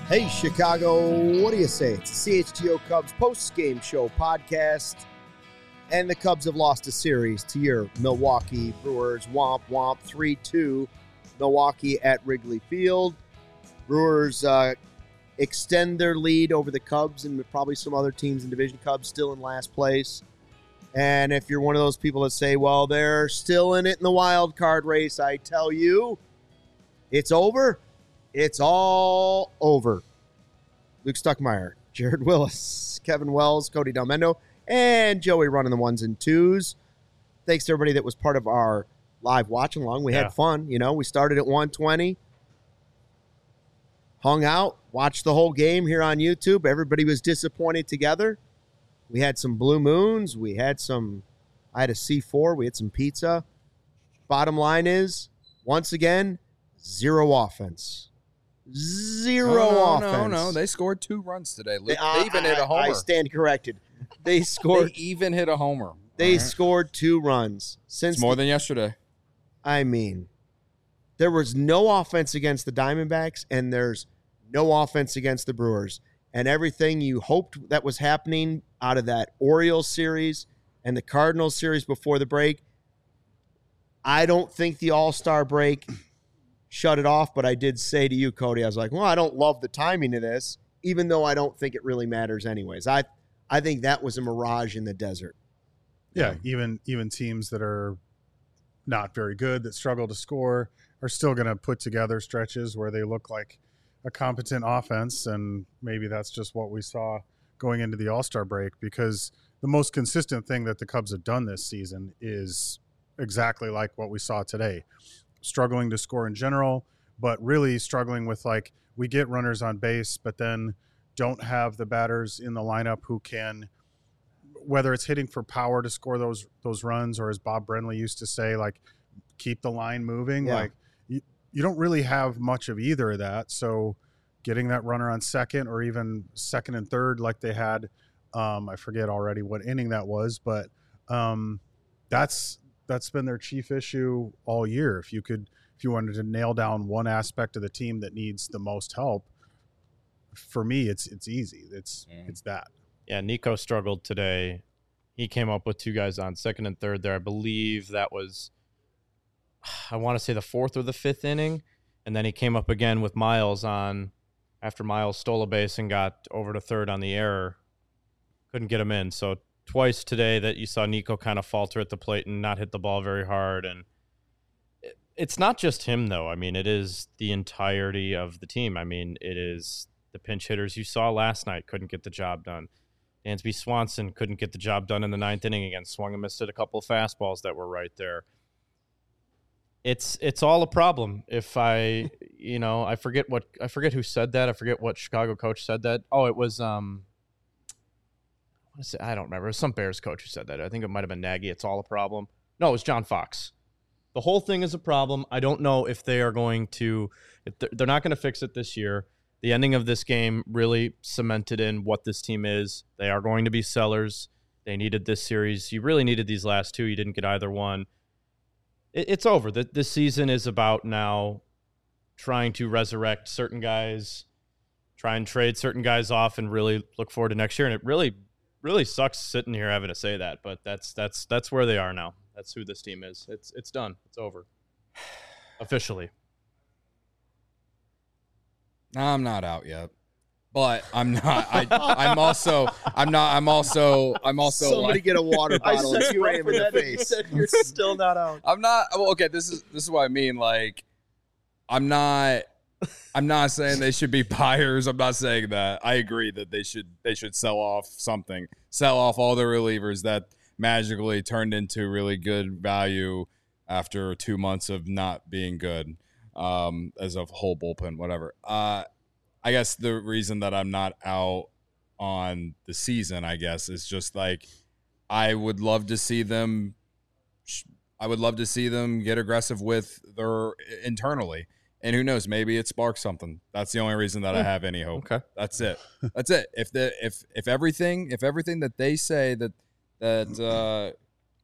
Hey, Chicago, what do you say? It's the CHGO Cubs post-game show podcast, and the Cubs have lost a series to your Milwaukee Brewers. Womp, womp, 3-2, Milwaukee at Wrigley Field. Brewers extend their lead over the Cubs and probably some other teams in division. Cubs still in last place. And if you're one of those people that say, well, they're still in it in the wild card race, I tell you, it's over. It's all over. Luke Stuckmeyer, Jared Willis, Kevin Wells, Cody Delmendo, and Joey running the ones and twos. Thanks to everybody that was part of our live watch along. We had fun. You know, we started at 1:20, hung out, watched the whole game here on YouTube. Everybody was disappointed together. We had some blue moons. I had a C4. We had some pizza. Bottom line is, once again, zero offense. Zero offense. No. They scored 2 runs today. They even hit a homer. I stand corrected. They even hit a homer. They scored 2 runs. It's more than yesterday. I mean, there was no offense against the Diamondbacks, and there's no offense against the Brewers. And everything you hoped that was happening out of that Orioles series and the Cardinals series before the break, I don't think the All-Star break shut it off, but I did say to you, Cody, I was like, well, I don't love the timing of this, even though I don't think it really matters anyways. I think that was a mirage in the desert. Yeah, even teams that are not very good, that struggle to score, are still going to put together stretches where they look like a competent offense, and maybe that's just what we saw going into the All-Star break, because the most consistent thing that the Cubs have done this season is exactly like what we saw today. Struggling to score in general, but really struggling with, like, we get runners on base, but then don't have the batters in the lineup who can, whether it's hitting for power to score those runs, or as Bob Brenly used to say, like, keep the line moving. Yeah. Like, you don't really have much of either of that. So getting that runner on second, or even second and third like they had, I forget already what inning that was, but that's been their chief issue all year. If you wanted to nail down one aspect of the team that needs the most help, for me, it's easy. It's that. Yeah, Nico struggled today. He came up with 2 guys on second and third there. I believe that was, I want to say, the 4th or the 5th inning. And then he came up again with Miles on after Miles stole a base and got over to third on the error. Couldn't get him in. So twice today that you saw Nico kind of falter at the plate and not hit the ball very hard. And it's not just him, though. I mean, it is the entirety of the team. I mean, it is the pinch hitters you saw last night couldn't get the job done. Dansby Swanson couldn't get the job done in the 9th inning again. Swung and missed at a couple of fastballs that were right there. It's all a problem. If I forget who said that. I forget what Chicago coach said that. Oh, it was I don't remember. It was some Bears coach who said that. I think it might have been Nagy. It's all a problem. No, it was John Fox. The whole thing is a problem. I don't know if they are going to – if they're not going to fix it this year. The ending of this game really cemented in what this team is. They are going to be sellers. They needed this series. You really needed these last 2. You didn't get either one. It's over. This season is about now trying to resurrect certain guys, try and trade certain guys off, and really look forward to next year. And it really sucks sitting here having to say that, but that's where they are now. That's who this team is. It's done. It's over. Officially. I'm not out yet, but I'm not. I'm also. Somebody like, get a water bottle and spray him in the face. You're still not out. I'm not. Well, okay. This is what I mean. Like, I'm not saying they should be buyers. I'm not saying that. I agree that they should sell off something. Sell off all the relievers that magically turned into really good value after 2 months of not being good, as a whole bullpen, whatever. I guess the reason that I'm not out on the season, I guess, is just like I would love to see them get aggressive with their internally. And who knows, maybe it sparks something. That's the only reason that I have any hope. Okay. That's it. That's it. If everything that they say that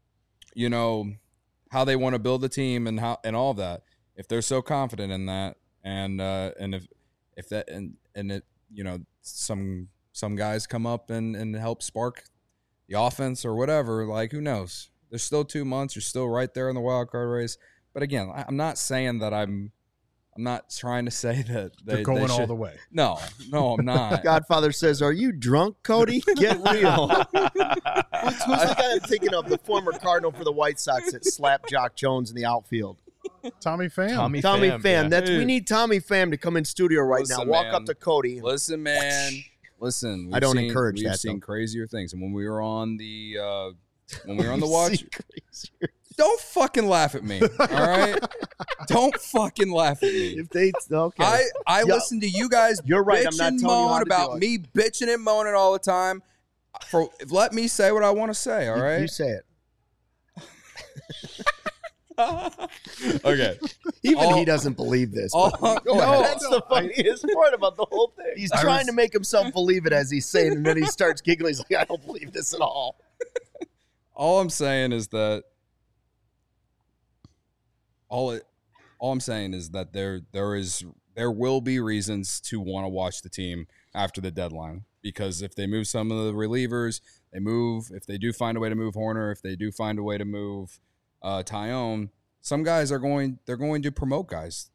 how they want to build the team and all of that, if they're so confident in that, and if some guys come up and help spark the offense or whatever. Like, who knows? There's still 2 months. You're still right there in the wild card race. But again, I'm not saying that I'm not trying to say that they're going all the way. No, I'm not. Godfather says, "Are you drunk, Cody? Get real." Who's the guy I'm thinking of? The former Cardinal for the White Sox that slapped Jock Jones in the outfield. Tommy Pham. Tommy Pham. yeah. We need Tommy Pham to come in studio right now. Walk up to Cody. Listen, man. Listen. I don't encourage that. We've seen crazier things, and when we were on the watch, don't fucking laugh at me. All right, don't fucking laugh at me. If they okay, I listen to you guys. You're right. I'm not telling you how to about do it. me bitching and moaning all the time. Let me say what I want to say. All right, you say it. Okay. Even he doesn't believe this. Go ahead. That's the funniest part about the whole thing. He's trying to make himself believe it as he's saying, and then he starts giggling. He's like, "I don't believe this at all." All I'm saying is that there will be reasons to want to watch the team after the deadline, because if they move some of the relievers, if they do find a way to move Horner, if they do find a way to move Tyone, some guys they're going to promote guys.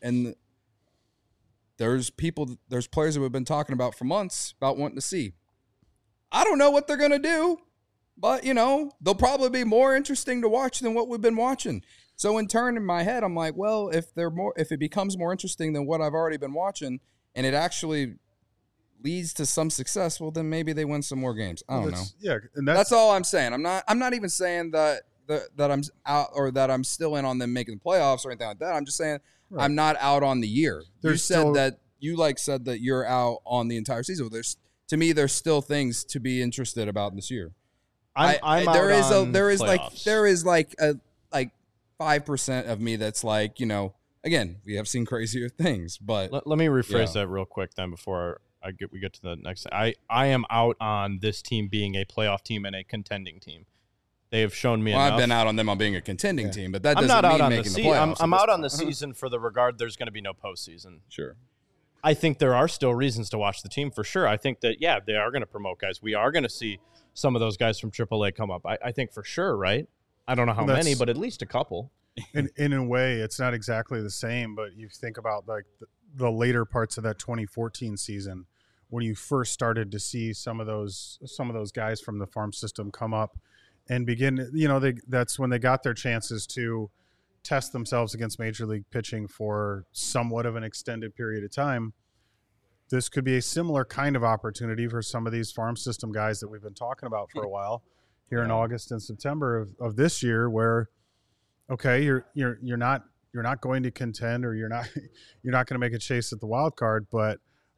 There's players that we've been talking about for months about wanting to see. I don't know what they're going to do, but they'll probably be more interesting to watch than what we've been watching. So in turn, in my head, I'm like, well, if it becomes more interesting than what I've already been watching, and it actually leads to some success, well, then maybe they win some more games. I don't know. Yeah, and that's all I'm saying. I'm not even saying that I'm out or that I'm still in on them making the playoffs or anything like that. I'm just saying I'm not out on the year. You said that you're out on the entire season. To me, there's still things to be interested about in this year. There is like 5% of me that's like, again, we have seen crazier things, but let me rephrase that real quick then before we get to the next. I am out on this team being a playoff team and a contending team. They have shown me enough. I've been out on them on being a contending team, but that doesn't I'm not mean out on making the the playoffs. I'm out on the season for the regard there's going to be no postseason. Sure. I think there are still reasons to watch the team for sure. I think that, they are going to promote guys. We are going to see some of those guys from AAA come up. I think for sure, right? I don't know how many, but at least a couple. In a way, it's not exactly the same, but you think about like the later parts of that 2014 season when you first started to see some of those guys from the farm system come up and begin, that's when they got their chances to test themselves against major league pitching for somewhat of an extended period of time. This could be a similar kind of opportunity for some of these farm system guys that we've been talking about for a while here in August and September of this year, where, okay, you're not going to contend, or you're not going to make a chase at the wild card, but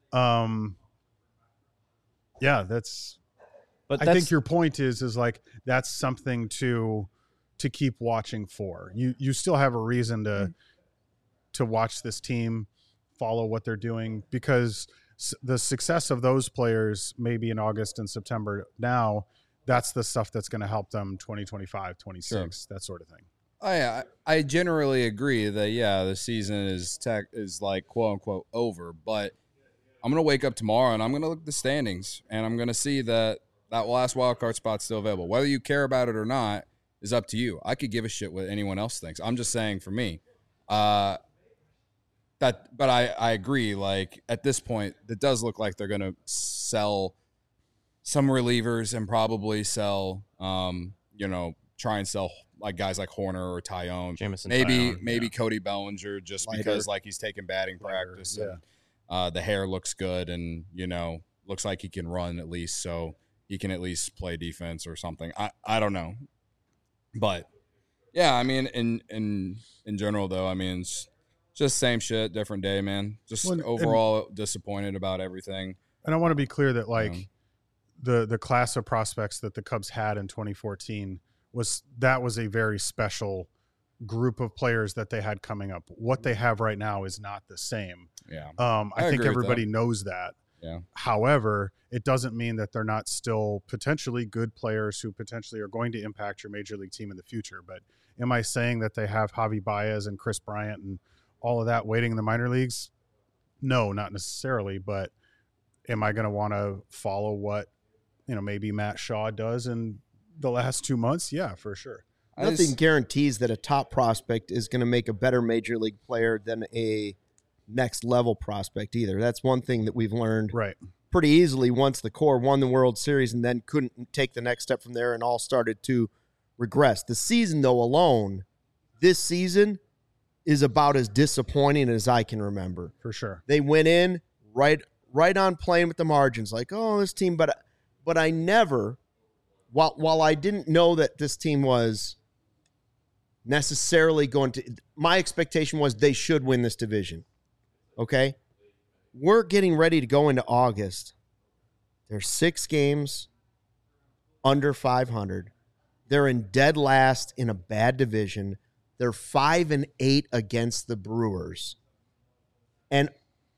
I think your point is like that's something to keep watching for. You still have a reason to watch this team, follow what they're doing, because the success of those players maybe in August and September now, that's the stuff that's going to help them 2025, 26, that sort of thing. I generally agree that the season is like quote unquote over, but I'm gonna wake up tomorrow and I'm gonna look at the standings and I'm gonna see that last wild card spot's still available. Whether you care about it or not is up to you. I could give a shit what anyone else thinks. I'm just saying for me, but I agree. Like at this point, it does look like they're gonna sell some relievers and probably sell, try and sell like guys like Horner or Tyone, maybe Cody Bellinger, just because like he's taking batting practice and the hair looks good and looks like he can run at least, so he can at least play defense or something. I don't know, but I mean in general though, I mean it's just same shit, different day, man. Just overall disappointed about everything. And I want to be clear that like the class of prospects that the Cubs had in 2014 was a very special group of players that they had coming up. What they have right now is not the same. Yeah. I think everybody knows that. Yeah. However, it doesn't mean that they're not still potentially good players who potentially are going to impact your major league team in the future. But am I saying that they have Javi Baez and Chris Bryant and all of that waiting in the minor leagues? No, not necessarily. But am I going to want to follow what, maybe Matt Shaw does in the last 2 months? Yeah, for sure. Nothing guarantees that a top prospect is going to make a better major league player than a next level prospect either. That's one thing that we've learned Right. pretty easily once the core won the World Series and then couldn't take the next step from there and all started to regress. The season, though, alone, this season is about as disappointing as I can remember. For sure. They went in right on playing with the margins, like, oh, this team, but I never, while I didn't know that this team was necessarily going to, my expectation was they should win this division. Okay? We're getting ready to go into August. There's 6 games under 500. They're in dead last in a bad division. They're 5-8 against the Brewers. And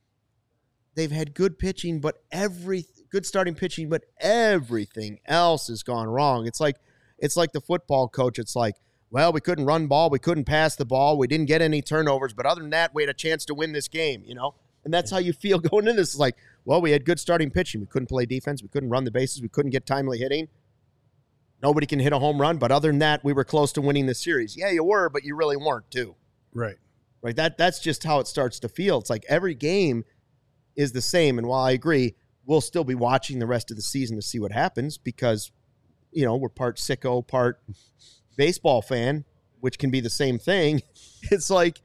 they've had good pitching, but good starting pitching, but everything else has gone wrong. It's like the football coach. It's like, well, we couldn't run ball, we couldn't pass the ball, we didn't get any turnovers, but other than that, we had a chance to win this game, And that's how you feel going into this. It's like, well, we had good starting pitching. We couldn't play defense. We couldn't run the bases. We couldn't get timely hitting. Nobody can hit a home run, but other than that, we were close to winning the series. Yeah, you were, but you really weren't too. Right. Right. That's just how it starts to feel. It's like every game is the same. And while I agree, we'll still be watching the rest of the season to see what happens because, we're part sicko, part baseball fan, which can be the same thing. It's like,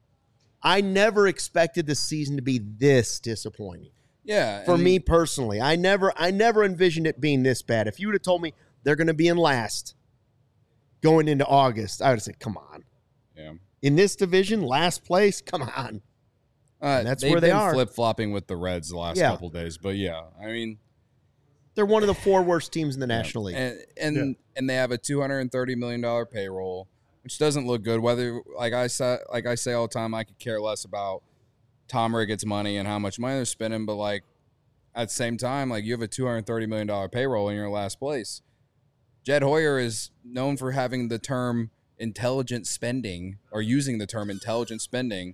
I never expected the season to be this disappointing. Yeah. For me personally, I never envisioned it being this bad. If you would have told me they're going to be in last going into August, I would have said, come on. Yeah. In this division, last place, come on. That's where they are. Flip-flopping with the Reds the last couple of days. But, yeah, I mean. They're one of the 4 worst teams in the National League. And they have a $230 million payroll, which doesn't look good. Whether, like I say all the time, I could care less about Tom Ricketts' money and how much money they're spending. But, like, at the same time, like, you have a $230 million payroll in your last place. Jed Hoyer is known for having the term intelligent spending or using the term intelligent spending.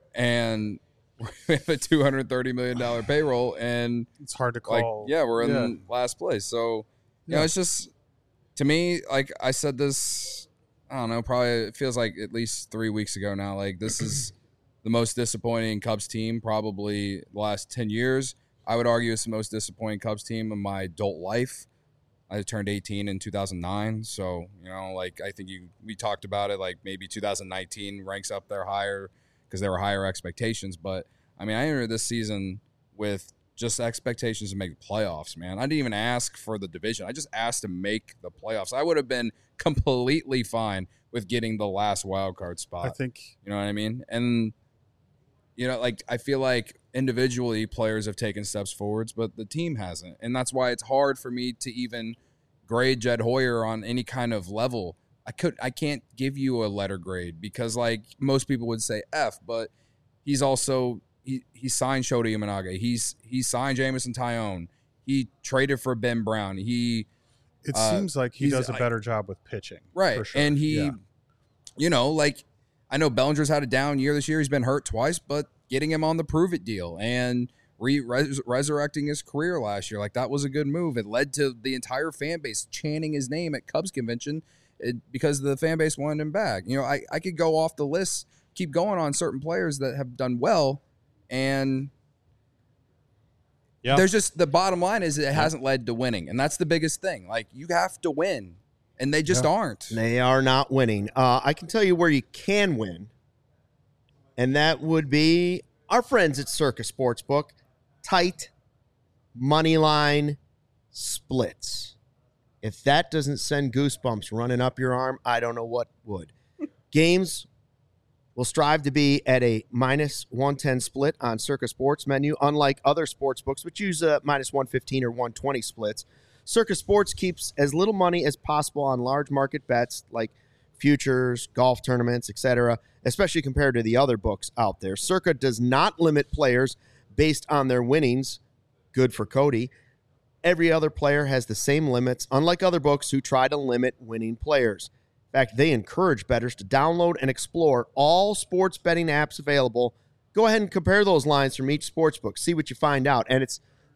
And we have a $230 million payroll, and it's hard to call. We're in last place. So, it's just, to me, like I said this, I don't know, probably it feels like at least 3 weeks ago now. Like, this is the most disappointing Cubs team probably the last 10 years. I would argue it's the most disappointing Cubs team in my adult life. I turned 18 in 2009. So, I think we talked about it, like maybe 2019 ranks up there higher because there were higher expectations. But, I mean, I entered this season with just expectations to make the playoffs, man. I didn't even ask for the division. I just asked to make the playoffs. I would have been completely fine with getting the last wild card spot. I think. You know what I mean? And, I feel like individually players have taken steps forwards, but the team hasn't. And that's why it's hard for me to even grade Jed Hoyer on any kind of level. I can't give you a letter grade because, like, most people would say F, but he's also he signed Shota Imanaga. He signed Jameson Tyone. He traded for Ben Brown. It seems like he does a better job with pitching. Right. For sure. And I know Bellinger's had a down year this year. He's been hurt twice, but getting him on the prove it deal and resurrecting his career last year, like, that was a good move. It led to the entire fan base chanting his name at Cubs convention because the fan base wanted him back. I could go off the list, keep going on certain players that have done well, and there's just the bottom line is it hasn't led to winning, and that's the biggest thing. Like, you have to win, and they just aren't. They are not winning. I can tell you where you can win, and that would be our friends at Circa Sportsbook. Tight money line splits. If that doesn't send goosebumps running up your arm, I don't know what would. Games will strive to be at a minus 110 split on Circa Sports menu, unlike other sports books, which use a minus 115 or 120 splits. Circa Sports keeps as little money as possible on large market bets like futures, golf tournaments, etc., especially compared to the other books out there. Circa does not limit players based on their winnings. Good for Cody. Every other player has the same limits, unlike other books who try to limit winning players. In fact, they encourage bettors to download and explore all sports betting apps available. Go ahead and compare those lines from each sportsbook. See what you find out. And it's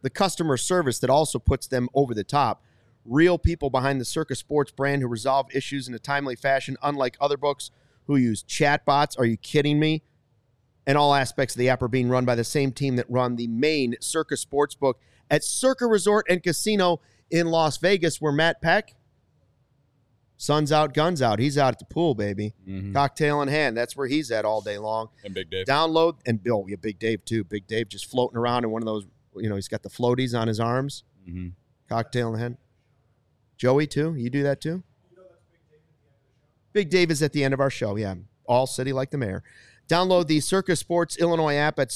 the customer service that also puts them over the top. Real people behind the Circa Sports brand who resolve issues in a timely fashion, unlike other books who use chatbots. Are you kidding me? And all aspects of the app are being run by the same team that run the main Circa Sportsbook at Circa Resort and Casino in Las Vegas, where Matt Peck, sun's out, guns out. He's out at the pool, baby. Mhm. Cocktail in hand. That's where he's at all day long. And Big Dave. Download, and Bill, yeah, Big Dave too. Big Dave just floating around in one of those, he's got the floaties on his arms. Mm-hmm. Cocktail in the hand. Joey too? You do that too? Big Dave is at the end of our show, yeah. All city like the mayor. Download the Circa Sports Illinois app at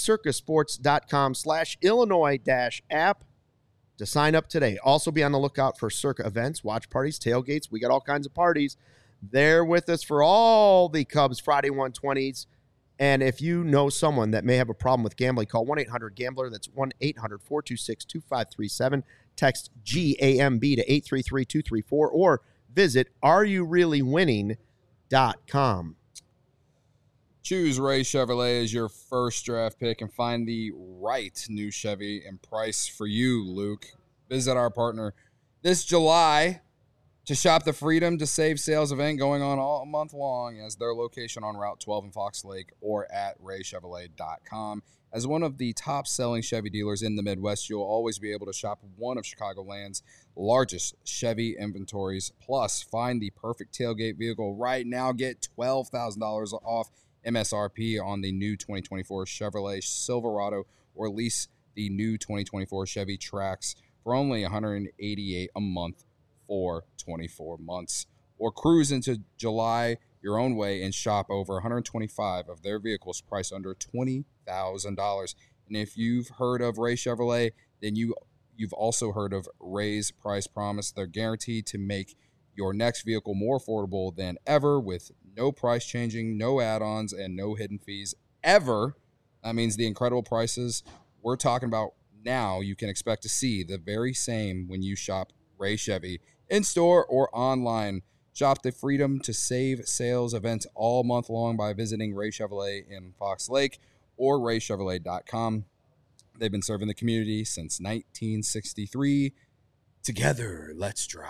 circasports.com/Illinois-app to sign up today. Also be on the lookout for Circa events, watch parties, tailgates. We got all kinds of parties. They're with us for all the Cubs Friday 120s. And if you know someone that may have a problem with gambling, call 1-800-GAMBLER. That's 1-800-426-2537. Text GAMB to 833-234 or visit areyoureallywinning.com. Choose Ray Chevrolet as your first draft pick and find the right new Chevy and price for you, Luke. Visit our partner this July to shop the Freedom to Save sales event going on all month long as their location on Route 12 in Fox Lake or at raychevrolet.com. As one of the top-selling Chevy dealers in the Midwest, you'll always be able to shop one of Chicagoland's largest Chevy inventories. Plus, find the perfect tailgate vehicle right now. Get $12,000 off MSRP on the new 2024 Chevrolet Silverado, or lease the new 2024 Chevy Trax for only $188 a month for 24 months. Or cruise into July your own way and shop over 125 of their vehicles priced under $20,000. And if you've heard of Ray Chevrolet, then you've also heard of Ray's Price Promise. They're guaranteed to make your next vehicle more affordable than ever with no price changing, no add-ons, and no hidden fees ever. That means the incredible prices we're talking about now you can expect to see the very same when you shop Ray Chevy in-store or online. Shop the Freedom to Save sales events all month long by visiting Ray Chevrolet in Fox Lake or raychevrolet.com. They've been serving the community since 1963. Together, let's drive.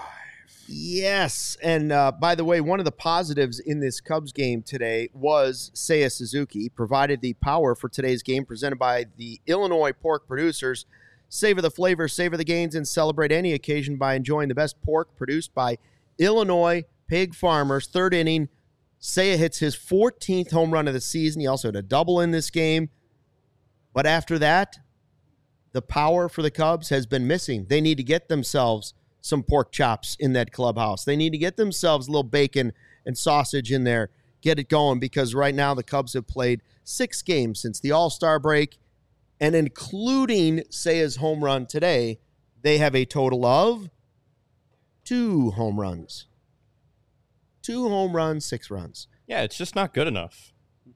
Yes, and by the way, one of the positives in this Cubs game today was Seiya Suzuki provided the power for today's game presented by the Illinois pork producers. Savor the flavor, savor the gains, and celebrate any occasion by enjoying the best pork produced by Illinois pig farmers. Third inning, Seiya hits his 14th home run of the season. He also had a double in this game. But after that, the power for the Cubs has been missing. They need to get themselves some pork chops in that clubhouse. They need to get themselves a little bacon and sausage in there, get it going, because right now the Cubs have played 6 games since the All-Star break, and including Seiya's home run today, they have a total of 2 home runs. 2 home runs, 6 runs. Yeah, it's just not good enough.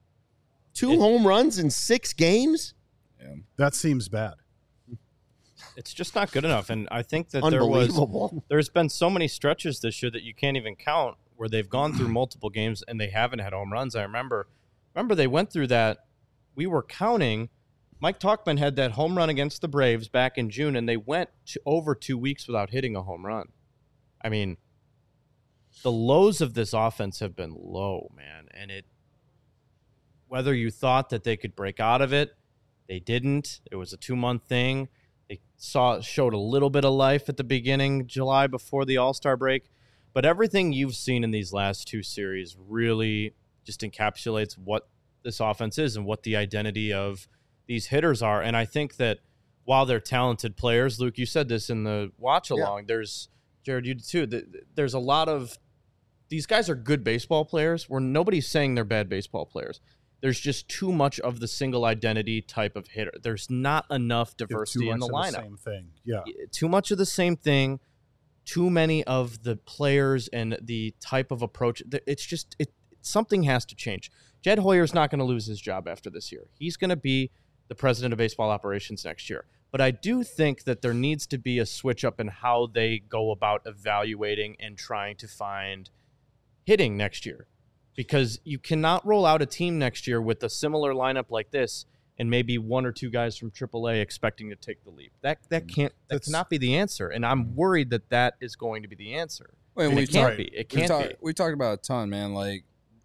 2 home runs in 6 games? Yeah. That seems bad. It's just not good enough. And I think that Unbelievable. there's been so many stretches this year that you can't even count where they've gone through multiple games and they haven't had home runs. I remember they went through that. We were counting. Mike Tauchman had that home run against the Braves back in June, and they went over 2 weeks without hitting a home run. I mean, the lows of this offense have been low, man. And whether you thought that they could break out of it, they didn't. It was a 2-month thing. They showed a little bit of life at the beginning, July, before the All-Star break. But everything you've seen in these last 2 series really just encapsulates what this offense is and what the identity of these hitters are. And I think that while they're talented players, Luke, you said this in the watch-along, there's, Jared, you did too, there's a lot of, these guys are good baseball players where nobody's saying they're bad baseball players. There's just too much of the single identity type of hitter. There's not enough diversity in the lineup. Same thing. Yeah. Too much of the same thing. Too many of the players and the type of approach. It's just something has to change. Jed Hoyer's not going to lose his job after this year. He's going to be the president of baseball operations next year. But I do think that there needs to be a switch up in how they go about evaluating and trying to find hitting next year. Because you cannot roll out a team next year with a similar lineup like this and maybe one or two guys from AAA expecting to take the leap. That cannot be the answer, and I'm worried that is going to be the answer. Wait, it can't be. It can't be. We talked about it a ton, man. Like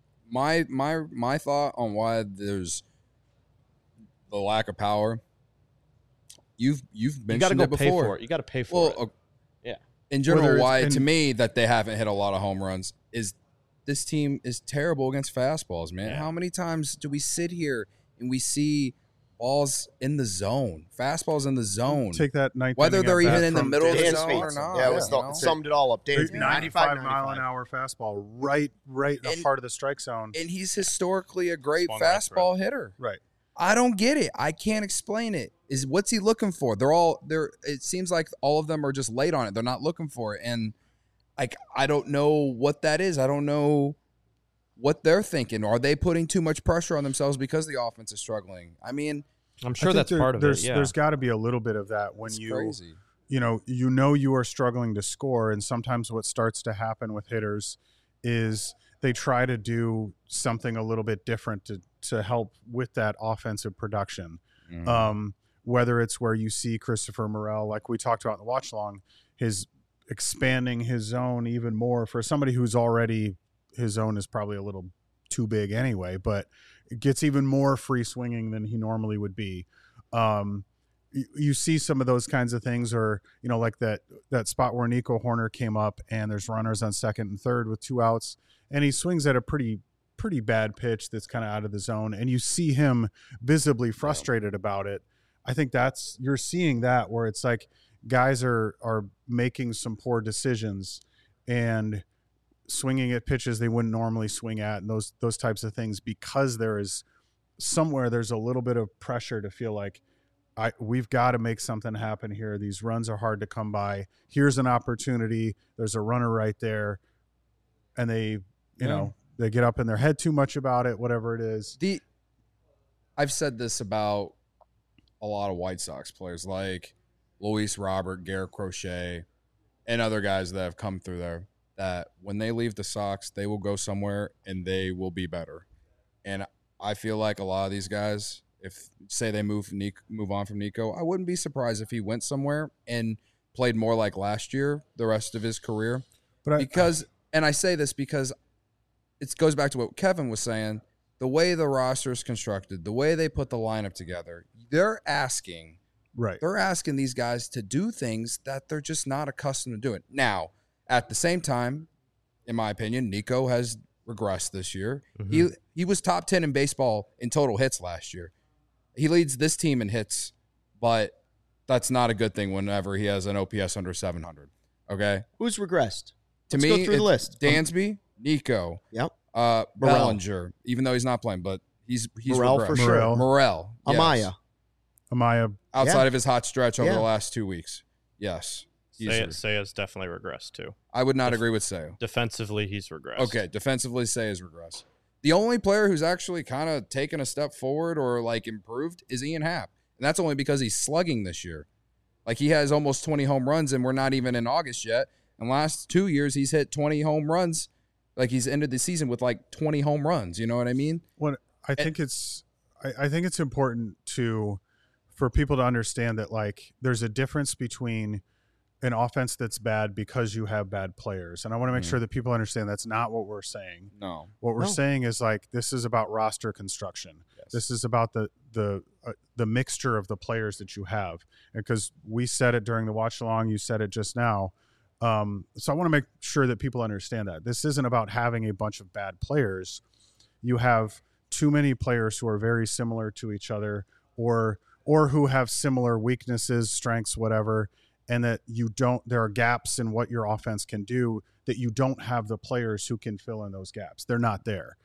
my thought on why there's the lack of power. You've mentioned it before. Pay for it. You got to pay for it. Yeah. In general, why to me that they haven't hit a lot of home runs is this team is terrible against fastballs, man. Yeah. How many times do we sit here and we see balls in the zone, fastballs in the zone? Take that ninth whether inning they're at even bat in the from middle of the Dan zone or Speeds. not. Yeah, it summed it all up. Dan Speeds, 95 mile an hour fastball right in the heart of the strike zone. And he's historically a great Swung right fastball hitter. Right. I don't get it. I can't explain it. What's he looking for? It seems like all of them are just late on it. They're not looking for it. And like I don't know what that is. I don't know what they're thinking. Are they putting too much pressure on themselves because the offense is struggling? I mean, I'm sure that's part of it. Yeah. There's got to be a little bit of that when it's you crazy. you know you are struggling to score, and sometimes what starts to happen with hitters is they try to do something a little bit different to help with that offensive production. Mm-hmm. Whether it's where you see Christopher Morel, like we talked about in the watch long, his expanding his zone even more for somebody who's already, his zone is probably a little too big anyway, but it gets even more free swinging than he normally would be. You see some of those kinds of things, or like that spot where Nico Horner came up and there's runners on second and third with 2 outs, and he swings at a pretty bad pitch that's kind of out of the zone, and you see him visibly frustrated about it. I think you're seeing that where it's like guys are making some poor decisions and swinging at pitches they wouldn't normally swing at, and those types of things, because there's a little bit of pressure to feel like we've got to make something happen here. These runs are hard to come by. Here's an opportunity. There's a runner right there, and they they get up in their head too much about it, whatever it is. I've said this about a lot of White Sox players like Luis Robert, Garrett Crochet, and other guys that have come through there, that when they leave the Sox, they will go somewhere and they will be better. And I feel like a lot of these guys, if say they move on from Nico, I wouldn't be surprised if he went somewhere and played more like last year the rest of his career. And I say this because it goes back to what Kevin was saying, the way the roster is constructed, the way they put the lineup together, they're asking these guys to do things that they're just not accustomed to doing. Now, at the same time, in my opinion, Nico has regressed this year. Mm-hmm. He was top 10 in baseball in total hits last year. He leads this team in hits, but that's not a good thing whenever he has an OPS under 700. Okay? Who's regressed? Let's go through the list. Dansby, Nico. Yep. Bellinger, even though he's not playing, but he's Morel regressed. for sure. Morel. Yes. Amaya. Outside of his hot stretch over the last 2 weeks. Yes. Seiya's definitely regressed too. I would not agree with Seiya. Defensively, he's regressed. Okay, defensively, Seiya's regressed. The only player who's actually kind of taken a step forward or like improved is Ian Happ. And that's only because he's slugging this year. Like he has almost 20 home runs and we're not even in August yet. And last 2 years, he's hit 20 home runs. Like he's ended the season with like 20 home runs. You know what I mean? I think it's important for people to understand that like there's a difference between an offense that's bad because you have bad players. And I want to make sure that people understand that's not what we're saying. No. What we're saying is like this is about roster construction. Yes. This is about the mixture of the players that you have. Because we said it during the watch along, you said it just now. So I want to make sure that people understand that this isn't about having a bunch of bad players. You have too many players who are very similar to each other or who have similar weaknesses, strengths, whatever, and that there are gaps in what your offense can do that you don't have the players who can fill in those gaps. They're not there.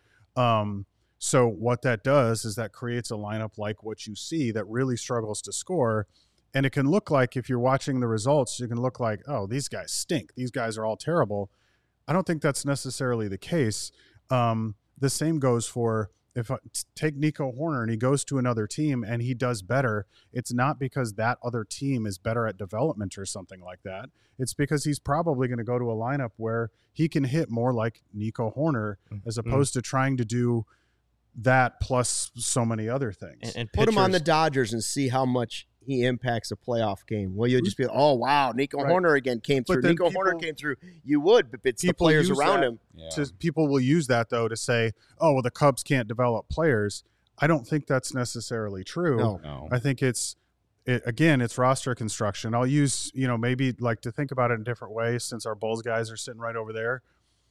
So what that does is that creates a lineup like what you see that really struggles to score. And it can look like, if you're watching the results, you can look like, oh, these guys stink. These guys are all terrible. I don't think that's necessarily the case. The same goes for if I take Nico Horner and he goes to another team and he does better. It's not because that other team is better at development or something like that. It's because he's probably going to go to a lineup where he can hit more like Nico Horner as opposed to trying to do that plus so many other things. And Put him on the pitchers- Dodgers and see how much he impacts a playoff game. Well, you'll just be, oh, wow, Nico Right. Horner again came But through. then Nico Horner people- came through. You would, but it's the people players use around that him. Yeah. People will use that, though, to say, oh, well, the Cubs can't develop players. I don't think that's necessarily true. No. I think it's roster construction. I'll use, maybe like to think about it in a different way since our Bulls guys are sitting right over there.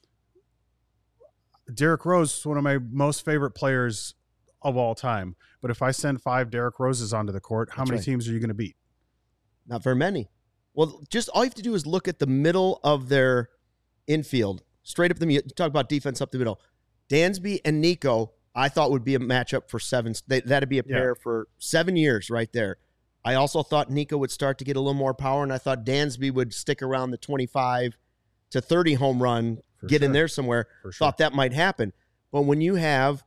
Derrick Rose is one of my most favorite players of all time. But if I send 5 Derrick Roses onto the court, how That's many right. teams are you going to beat? Not very many. Well, just all you have to do is look at the middle of their infield, straight up the middle. Talk about defense up the middle. Dansby and Nico, I thought would be a matchup for 7. That'd be a pair for 7 years right there. I also thought Nico would start to get a little more power, and I thought Dansby would stick around the 25 to 30 home run, get in sure. there somewhere. For sure. Thought that might happen. But when you have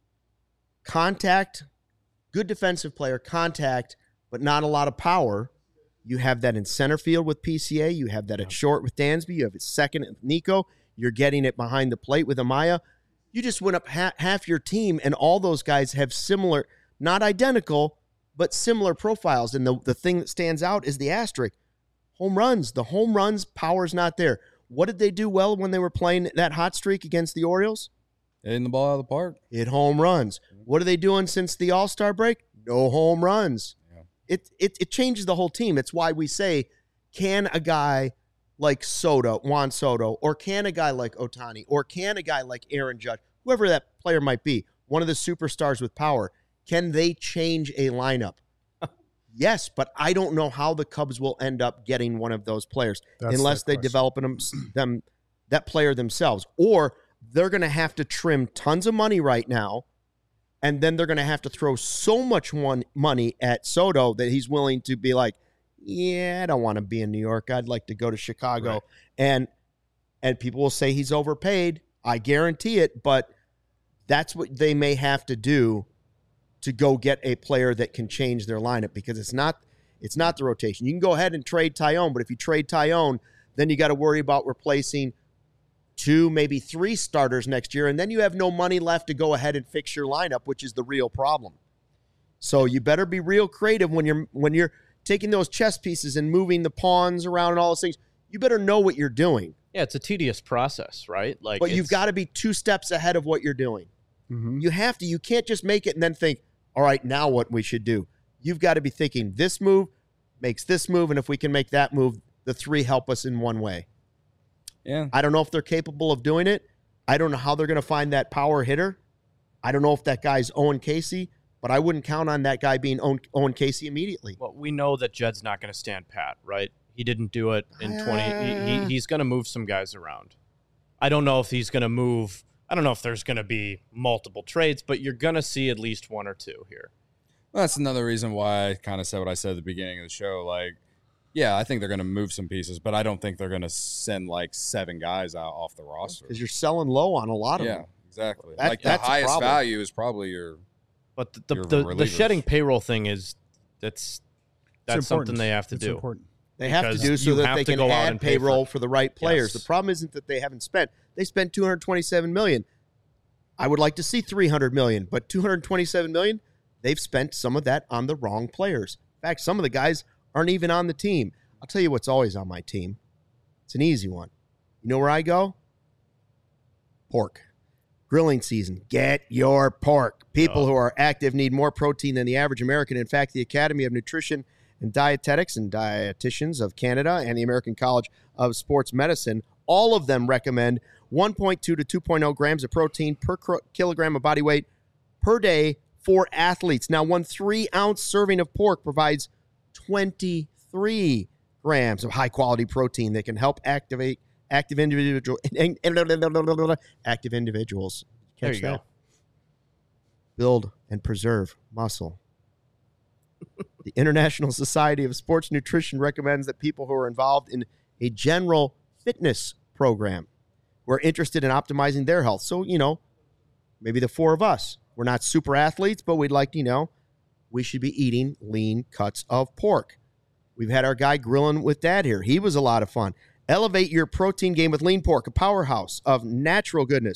contact, good defensive player, contact, but not a lot of power, you have that in center field with PCA. You have that at short with Dansby. You have it second with Nico. You're getting it behind the plate with Amaya. You just went up half your team, and all those guys have similar, not identical, but similar profiles. And the thing that stands out is the asterisk. Home runs. The home runs, power's not there. What did they do well when they were playing that hot streak against the Orioles? Hitting the ball out of the park. Hit home runs. What are they doing since the All-Star break? No home runs. Yeah. It changes the whole team. It's why we say, can a guy like Juan Soto, or can a guy like Ohtani, or can a guy like Aaron Judge, whoever that player might be, one of the superstars with power, can they change a lineup? Yes, but I don't know how the Cubs will end up getting one of those players unless they develop that player themselves. Or they're going to have to trim tons of money right now, and then they're going to have to throw so much money at Soto that he's willing to be like, yeah, I don't want to be in New York. I'd like to go to Chicago. Right. And people will say he's overpaid. I guarantee it, but that's what they may have to do to go get a player that can change their lineup, because it's not the rotation. You can go ahead and trade Tyone, but if you trade Tyone, then you got to worry about replacing 2, maybe 3 starters next year, and then you have no money left to go ahead and fix your lineup, which is the real problem. So you better be real creative when you're taking those chess pieces and moving the pawns around and all those things. You better know what you're doing. Yeah, it's a tedious process, right? But you've got to be 2 steps ahead of what you're doing. Mm-hmm. You have to. You can't just make it and then think, all right, now what we should do. You've got to be thinking this move makes this move, and if we can make that move, the 3 help us in one way. Yeah. I don't know if they're capable of doing it. I don't know how they're going to find that power hitter. I don't know if that guy's Owen Casey, but I wouldn't count on that guy being Owen Casey immediately. Well, we know that Jed's not going to stand pat, right? He didn't do it in 20. He's going to move some guys around. I don't know if he's going to move. I don't know if there's going to be multiple trades, but you're going to see at least 1 or 2 here. That's another reason why I kind of said what I said at the beginning of the show. Like, yeah, I think they're going to move some pieces, but I don't think they're going to send like 7 guys out off the roster. Because you're selling low on a lot of them. Yeah, exactly. That- Like the that's a highest problem. value is probably your. But Your the relievers. shedding payroll thing that's It's something important. they have to It's do. important. They have to Because do so you that have they to can go out add and pay payroll for- for the right players. Yes. The problem isn't that they haven't spent. They spent $227 million. I would like to see $300 million, but $227 million, they've spent some of that on the wrong players. In fact, some of the guys aren't even on the team. I'll tell you what's always on my team. It's an easy one. You know where I go? Pork. Grilling season. Get your pork. People who are active need more protein than the average American. In fact, the Academy of Nutrition and Dietetics and Dietitians of Canada and the American College of Sports Medicine, all of them recommend 1.2 to 2.0 grams of protein per kilogram of body weight per day for athletes. Now, 1 3-ounce serving of pork provides 23 grams of high-quality protein that can help active individuals. There you go. Build and preserve muscle. The International Society of Sports Nutrition recommends that people who are involved in a general fitness program who are interested in optimizing their health. So, maybe the 4 of us, we're not super athletes, but we'd like to, we should be eating lean cuts of pork. We've had our guy grilling with Dad here. He was a lot of fun. Elevate your protein game with lean pork, a powerhouse of natural goodness.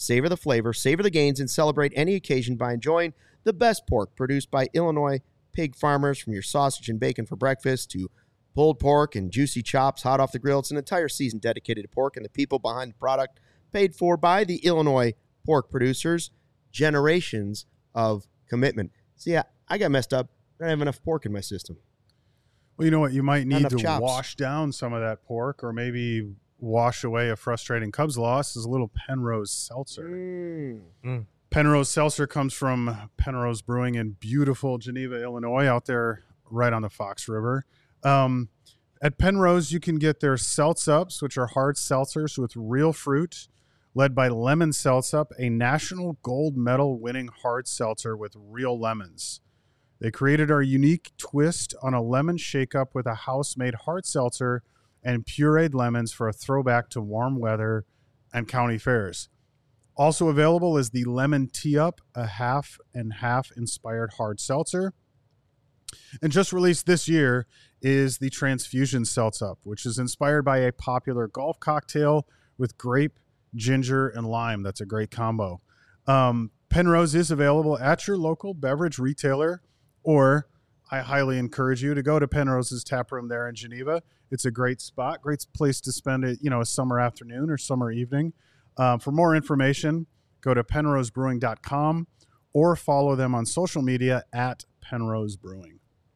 Savor the flavor, savor the gains, and celebrate any occasion by enjoying the best pork produced by Illinois pig farmers. From your sausage and bacon for breakfast to pulled pork and juicy chops hot off the grill. It's an entire season dedicated to pork and the people behind the product, paid for by the Illinois pork producers. Generations of commitment. See, I got messed up. I don't have enough pork in my system. Well, you know what? You might need to chops. wash down some of that pork, or maybe wash away a frustrating Cubs loss is a little Penrose Seltzer. Penrose Seltzer comes from Penrose Brewing in beautiful Geneva, Illinois, out there right on the Fox River. At Penrose, you can get their Seltz-Ups, which are hard seltzers with real fruit, led by Lemon Seltz-Up, a national gold medal winning hard seltzer with real lemons. They created our unique twist on a lemon shake-up with a house-made hard seltzer and pureed lemons for a throwback to warm weather and county fairs. Also available is the Lemon Tea-Up, a half and half inspired hard seltzer. And just released this year is the Transfusion Seltz-Up, which is inspired by a popular golf cocktail with grape, ginger, and lime. That's a great combo. Penrose is available at your local beverage retailer, or I highly encourage you to go to Penrose's tap room there in Geneva. It's a great spot, great place to spend it, a summer afternoon or summer evening. For more information, go to penrosebrewing.com or follow them on social media at Penrose Brewing.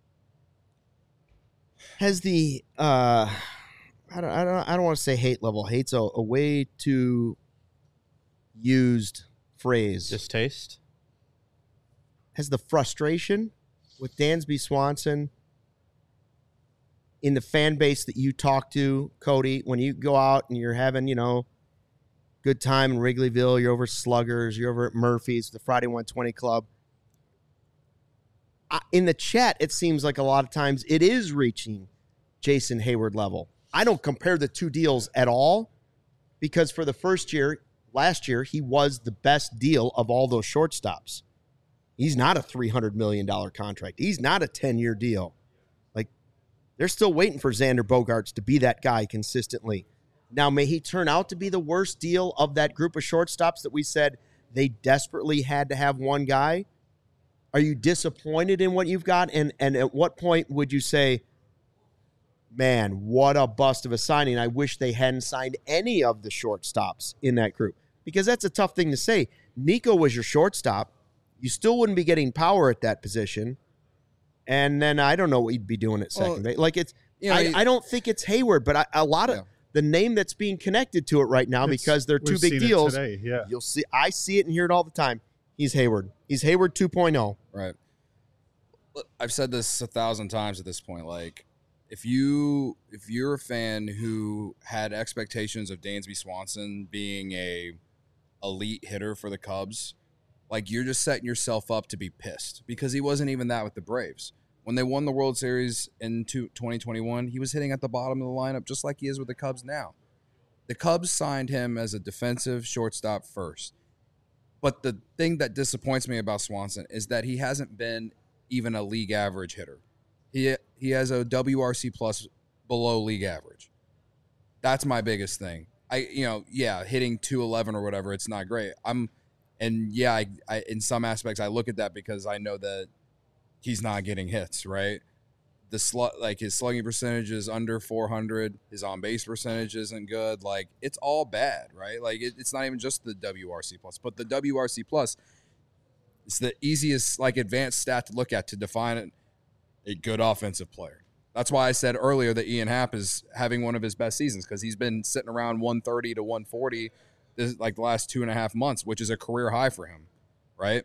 Has the I don't want to say hate level. Hate's a way too used phrase. Distaste? Has the frustration with Dansby Swanson in the fan base that you talk to, Cody, when you go out and you're having, good time in Wrigleyville, you're over Sluggers, you're over at Murphy's, the Friday 120 Club. In the chat, it seems like a lot of times it is reaching Jason Hayward level. I don't compare the two deals at all because for the first year, last year, he was the best deal of all those shortstops. He's not a $300 million contract. He's not a 10-year deal. Like, they're still waiting for Xander Bogaerts to be that guy consistently. Now, may he turn out to be the worst deal of that group of shortstops that we said they desperately had to have one guy? Are you disappointed in what you've got? And at what point would you say, man, what a bust of a signing. I wish they hadn't signed any of the shortstops in that group. Because that's a tough thing to say. Nico was your shortstop. You still wouldn't be getting power at that position. And then I don't know what you'd be doing at second base. Like, it's, I don't think it's Hayward, but a lot of the name that's being connected to it right now, because they're two big deals. Today, yeah. You'll see, I see it and hear it all the time. He's Hayward. He's Hayward 2.0. Right. I've said this 1,000 times at this point. Like, if you're a fan who had expectations of Dansby Swanson being a elite hitter for the Cubs, like, you're just setting yourself up to be pissed, because he wasn't even that with the Braves. When they won the World Series in 2021, he was hitting at the bottom of the lineup just like he is with the Cubs now. The Cubs signed him as a defensive shortstop first. But the thing that disappoints me about Swanson is that he hasn't been even a league average hitter. He has a WRC plus below league average. That's my biggest thing. Hitting 211 or whatever, it's not great. I in some aspects I look at that because I know that he's not getting hits, right? His slugging percentage is under 400. His on-base percentage isn't good. Like, it's all bad, right? Like, it's not even just the WRC plus, but the WRC plus is the easiest, advanced stat to look at to define a good offensive player. That's why I said earlier that Ian Happ is having one of his best seasons, because he's been sitting around 130 to 140 the last 2.5 months, which is a career high for him, right?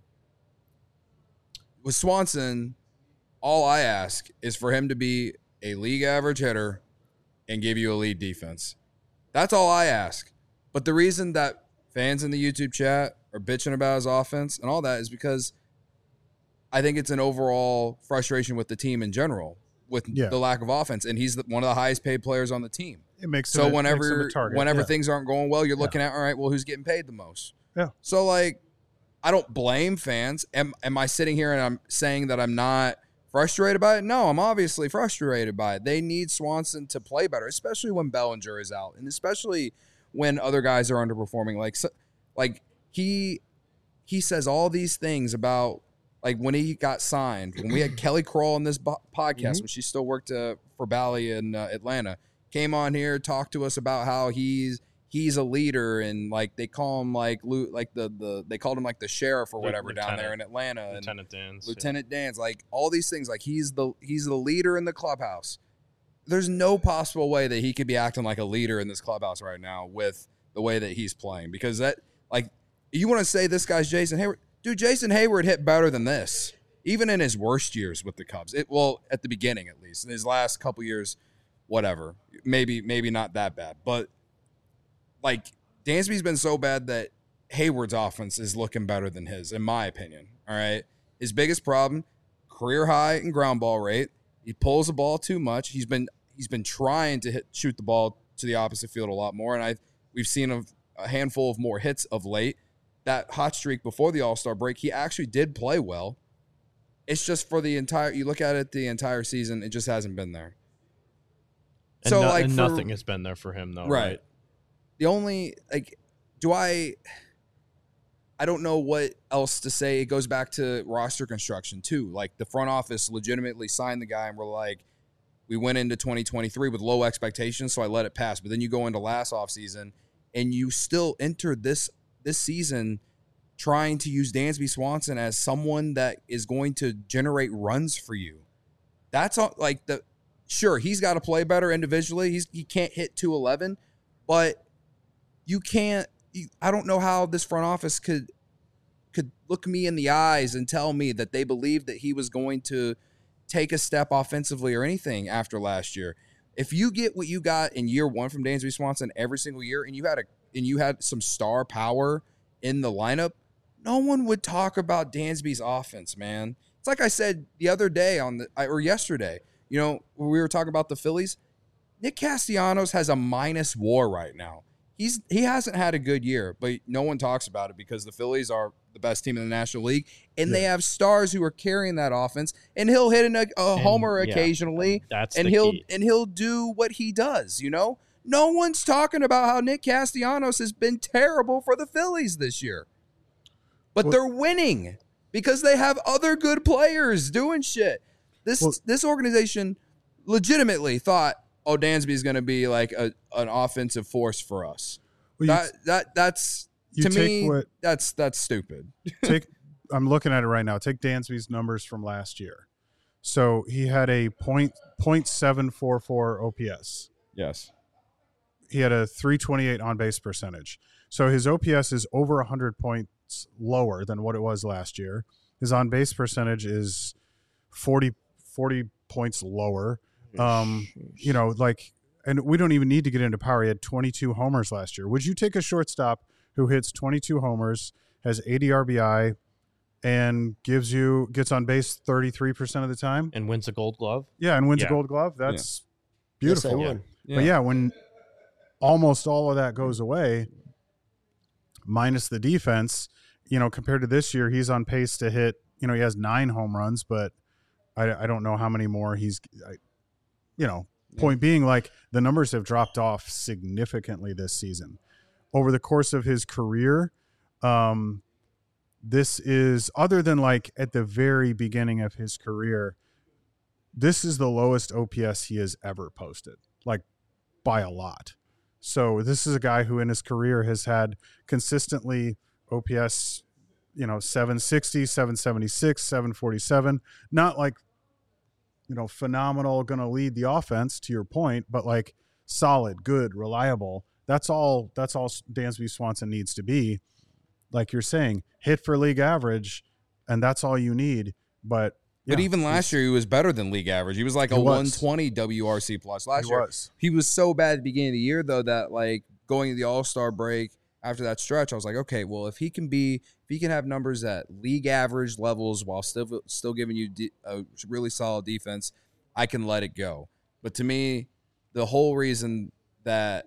With Swanson, all I ask is for him to be a league average hitter and give you a lead defense. That's all I ask. But the reason that fans in the YouTube chat are bitching about his offense and all that is because I think it's an overall frustration with the team in general with the lack of offense. And he's one of the highest paid players on the team. It makes so him whenever a target. Whenever things aren't going well, you're looking at, all right, well, who's getting paid the most? Yeah. So, I don't blame fans. Am I sitting here and I'm saying that I'm not frustrated by it? No, I'm obviously frustrated by it. They need Swanson to play better, especially when Bellinger is out, and especially when other guys are underperforming. Like he says all these things about like when he got signed, when we had Kelly Kroll on this podcast when she still worked for Bally in Atlanta, came on here, talked to us about how he's a leader, and like they call him like they called him like the sheriff or whatever down there in Atlanta, Lieutenant Dan's, like all these things, like he's the leader in the clubhouse. There's no possible way that he could be acting like a leader in this clubhouse right now with the way that he's playing, because that, like, you want to say this guy's Jason Hayward. Dude, Jason Hayward hit better than this, even in his worst years with the Cubs. Well, at the beginning at least. In his last couple years, whatever. Maybe not that bad. But, like, Dansby's been so bad that Hayward's offense is looking better than his, in my opinion. All right? His biggest problem, career high in ground ball rate. He pulls the ball too much. He's been trying to shoot the ball to the opposite field a lot more, and we've seen a handful of more hits of late. That hot streak before the All-Star break, he actually did play well. It's just for you look at it the entire season, it just hasn't been there. And nothing has been there for him, though, right? The only, like, I don't know what else to say. It goes back to roster construction, too. Like, the front office legitimately signed the guy, and we're like, we went into 2023 with low expectations, so I let it pass. But then you go into last offseason, and you still entered this season trying to use Dansby Swanson as someone that is going to generate runs for you. That's all, like, sure, he's got to play better individually. He can't hit 211, but you can't. I don't know how this front office could look me in the eyes and tell me that they believed that he was going to take a step offensively or anything after last year. If you get what you got in year one from Dansby Swanson every single year, and you had some star power in the lineup, no one would talk about Dansby's offense, man. It's like I said the other day or yesterday, when we were talking about the Phillies. Nick Castellanos has a minus WAR right now. He hasn't had a good year, but no one talks about it because the Phillies are the best team in the National League, and they have stars who are carrying that offense. And he'll hit a homer occasionally, he'll do what he does. No one's talking about how Nick Castellanos has been terrible for the Phillies this year, but they're winning because they have other good players doing shit. This organization legitimately thought, oh, Dansby is going to be like an offensive force for us. Well, that's stupid. I'm looking at it right now. Take Dansby's numbers from last year. So he had a .744 OPS. Yes. He had a 328 on base percentage. So his OPS is over 100 points lower than what it was last year. His on base percentage is 40 points lower. And we don't even need to get into power. He had 22 homers last year. Would you take a shortstop who hits 22 homers, has 80 RBI, and gets on base 33% of the time and wins a Gold Glove? Yeah, and wins a Gold Glove. That's beautiful. Yes, But when almost all of that goes away, minus the defense, compared to this year, he's on pace to hit. He has 9 home runs, but I don't know how many more he's. Point being, like, the numbers have dropped off significantly this season. Over the course of his career, this is, other than like at the very beginning of his career, this is the lowest OPS he has ever posted, like by a lot. So this is a guy who in his career has had consistently OPS, 760, 776, 747, not like, phenomenal, going to lead the offense, to your point, but like solid, good, reliable. That's all Dansby Swanson needs to be. Like you're saying, hit for league average, and that's all you need. But even last year, he was better than league average. He was like 120 WRC plus last year. He was so bad at the beginning of the year, though, that like going to the All-Star break after that stretch, I was like, okay, well, if he can have numbers at league average levels while still giving you a really solid defense, I can let it go. But to me, the whole reason that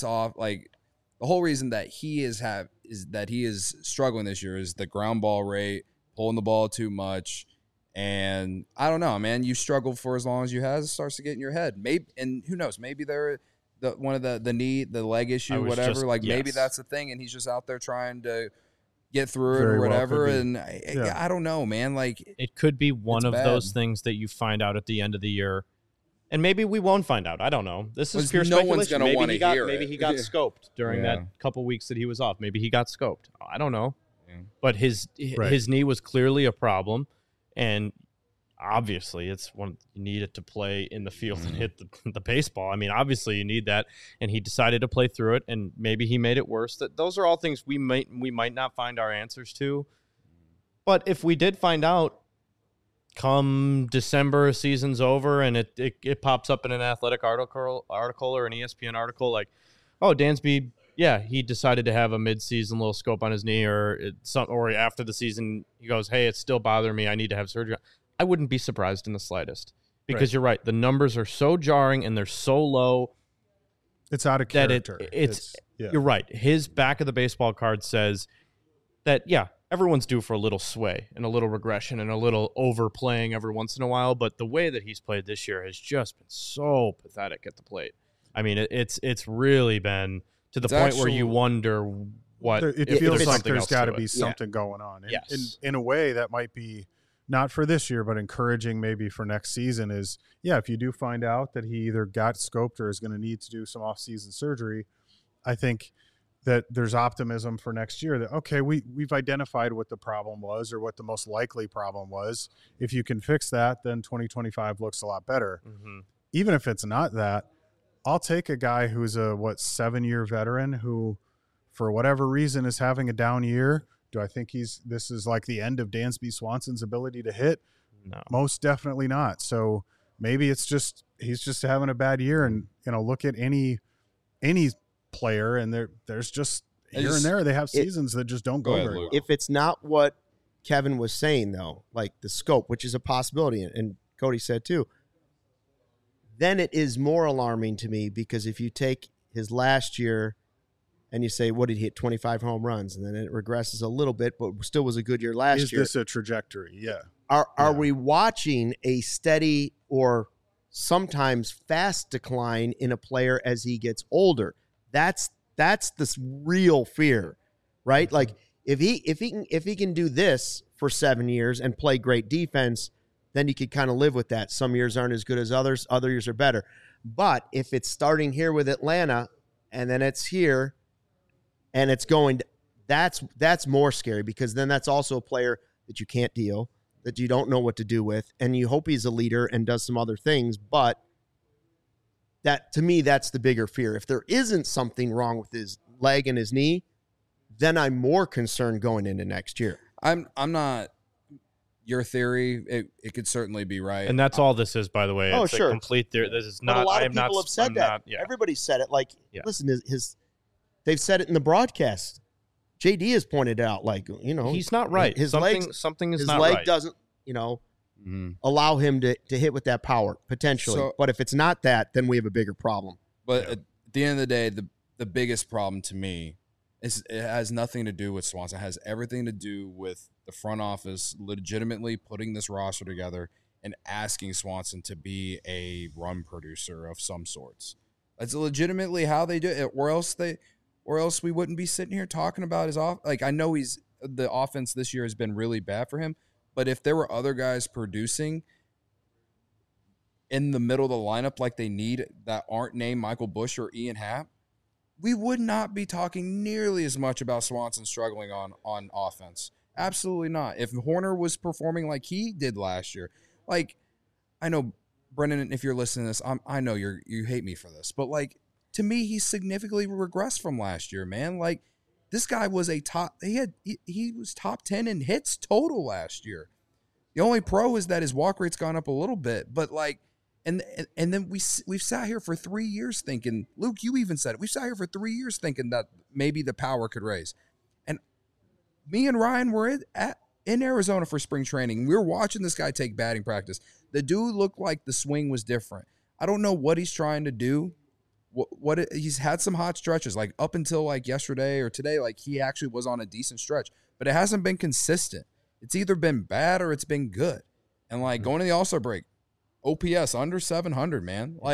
he is struggling this year is the ground ball rate, pulling the ball too much. And I don't know, man, you struggle for as long as you have, it starts to get in your head. Maybe, and who knows, maybe the one of the knee, the leg issue, whatever. just- Like maybe yes. that's the thing, and he's just out there trying to get through it Very or well whatever. could be. And I don't know, man. Like It could be one It's of bad. those things that you find out at the end of the year. And maybe we won't find out. I don't know. This is Well, pure no one's speculation. gonna Maybe wanna he got hear maybe it. he got Yeah. scoped during Yeah. that couple weeks that he was off. Maybe he got scoped. I don't know. Yeah. But his knee was clearly a problem, and obviously it's one you need it to play in the field and hit the baseball. I mean, obviously you need that, and he decided to play through it, and maybe he made it worse. That those are all things we might not find our answers to. But if we did find out come December, season's over, and it pops up in an Athletic article or an ESPN article, like, oh, Dansby, yeah, he decided to have a mid-season little scope on his knee, or after the season, he goes, hey, it's still bothering me, I need to have surgery. I wouldn't be surprised in the slightest, because you're right, the numbers are so jarring and they're so low. It's out of That character. You're right. His back of the baseball card says that, yeah, everyone's due for a little sway and a little regression and a little overplaying every once in a while. But the way that he's played this year has just been so pathetic at the plate. I mean, it's really been to the point where you wonder what It if feels there's like something there's else to got to it. be something going on. And Yes. in a way, that might be not for this year, but encouraging maybe for next season is, yeah, if you do find out that he either got scoped or is going to need to do some off-season surgery, I think that there's optimism for next year that, okay, we've identified what the problem was or what the most likely problem was. If you can fix that, then 2025 looks a lot better. Mm-hmm. Even if it's not that, I'll take a guy who's a 7-year veteran who, for whatever reason, is having a down year. Do I think this is like the end of Dansby Swanson's ability to hit? No. Most definitely not. So maybe it's just he's just having a bad year, and look at any player, and there's just here and there they have seasons that just don't go very well. If it's not what Kevin was saying, though, like the scope, which is a possibility, and Cody said too, then it is more alarming to me, because if you take his last year and you say, what did he hit, 25 home runs, and then it regresses a little bit, but still was a good year last year. Is this a trajectory? Yeah. Are we watching a steady or sometimes fast decline in a player as he gets older? That's the real fear, right? Like if he can do this for 7 years and play great defense, then you could kind of live with that. Some years aren't as good as others. Other years are better. But if it's starting here with Atlanta and then it's here and it's going, that's more scary, because then that's also a player that you can't deal, that you don't know what to do with, and you hope he's a leader and does some other things. But that, to me, that's the bigger fear. If there isn't something wrong with his leg and his knee, then I'm more concerned going into next year. I'm not. Your theory, it could certainly be right. And that's all this is, by the way. Oh, It's sure. a complete theory. This is But not. a lot I of am not. people have said I'm that. not- yeah. Everybody said it. Like, Yeah. listen, they've said it in the broadcast. JD has pointed out, like, He's not right. His something is his not leg right. doesn't, allow him to hit with that power potentially. So- but if it's not that, then we have a bigger problem. But at the end of the day, the biggest problem to me is it has nothing to do with Swanson. It has everything to do with the front office legitimately putting this roster together and asking Swanson to be a run producer of some sorts. That's legitimately how they do it, or else we wouldn't be sitting here talking about his off. Like, I know the offense this year has been really bad for him, but if there were other guys producing in the middle of the lineup like they need that aren't named Michael Busch or Ian Happ, we would not be talking nearly as much about Swanson struggling on offense. Absolutely not. If Horner was performing like he did last year, like, I know, Brendan, if you're listening to this, I know you hate me for this, but like, to me, he significantly regressed from last year, man. Like, this guy was he was top 10 in hits total last year. The only pro is that his walk rate's gone up a little bit, but like, and then we've sat here for 3 years thinking, Luke, you even said it. We've sat here for 3 years thinking that maybe the power could raise. And me and Ryan were in Arizona for spring training. We were watching this guy take batting practice. The dude looked like the swing was different. I don't know what he's trying to do. He's had some hot stretches, like up until like yesterday or today, like he actually was on a decent stretch, but it hasn't been consistent. It's either been bad or it's been good. And like going to the All-Star break, OPS under 700, man. Like,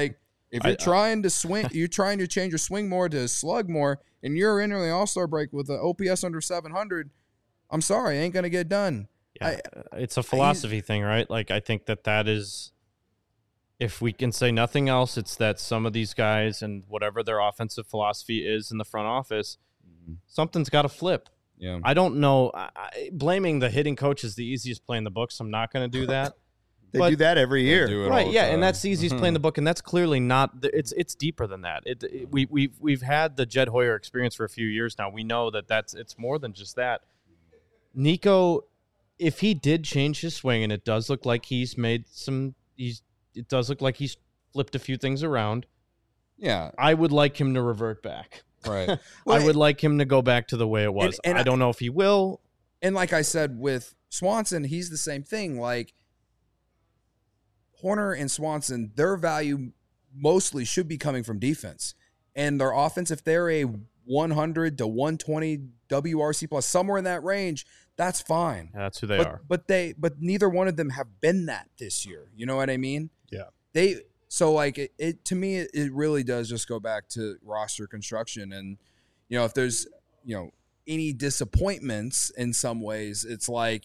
If you're trying to swing, you're trying to change your swing more to slug more, and you're entering the All-Star break with an OPS under 700, I'm sorry, ain't going to get done. Yeah, it's a philosophy thing, right? Like, I think that is, if we can say nothing else, it's that some of these guys and whatever their offensive philosophy is in the front office, something's got to flip. Yeah, I don't know. Blaming the hitting coach is the easiest play in the book, so I'm not going to do that. They do that every year. Right, yeah, and that's the easiest play in the book, and that's clearly not. It's deeper than that. We've had the Jed Hoyer experience for a few years now. We know that it's more than just that. Nico, if he did change his swing, and it does look like he's made some, it does look like he's flipped a few things around. Yeah, I would like him to revert back. right. I would like him to go back to the way it was. And I don't know if he will. And like I said with Swanson, he's the same thing. Like Horner and Swanson, their value mostly should be coming from defense. And their offense, if they're a 100 to 120 WRC plus, somewhere in that range, that's fine. Yeah, that's who they are. But neither one of them have been that this year. You know what I mean? Yeah. So like it to me, it really does just go back to roster construction. And, if there's, any disappointments in some ways, it's like,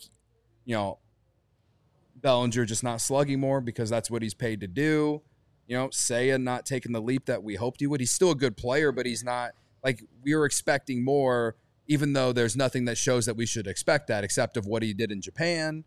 Bellinger just not slugging more because that's what he's paid to do. Seiya not taking the leap that we hoped he would. He's still a good player, but he's not, like, we were expecting more, even though there's nothing that shows that we should expect that except of what he did in Japan.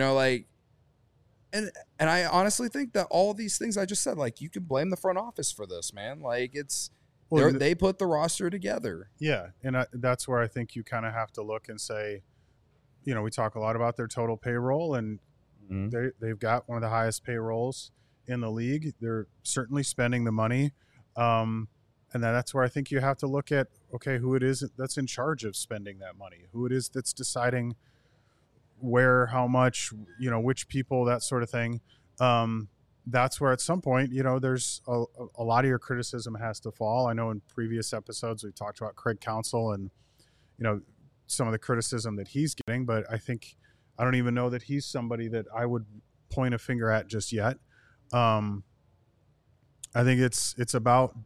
And I honestly think that all of these things I just said, like, you can blame the front office for this, man. Like, they put the roster together. Yeah, and that's where I think you kind of have to look and say, we talk a lot about their total payroll, and they've got one of the highest payrolls in the league. They're certainly spending the money, and that's where I think you have to look at, okay, who it is that's in charge of spending that money, who it is that's deciding where, how much, which people, that sort of thing. That's where at some point, there's a lot of your criticism has to fall. I know in previous episodes we talked about Craig Counsell and, some of the criticism that he's getting, but I don't even know that he's somebody that I would point a finger at just yet. I think it's about,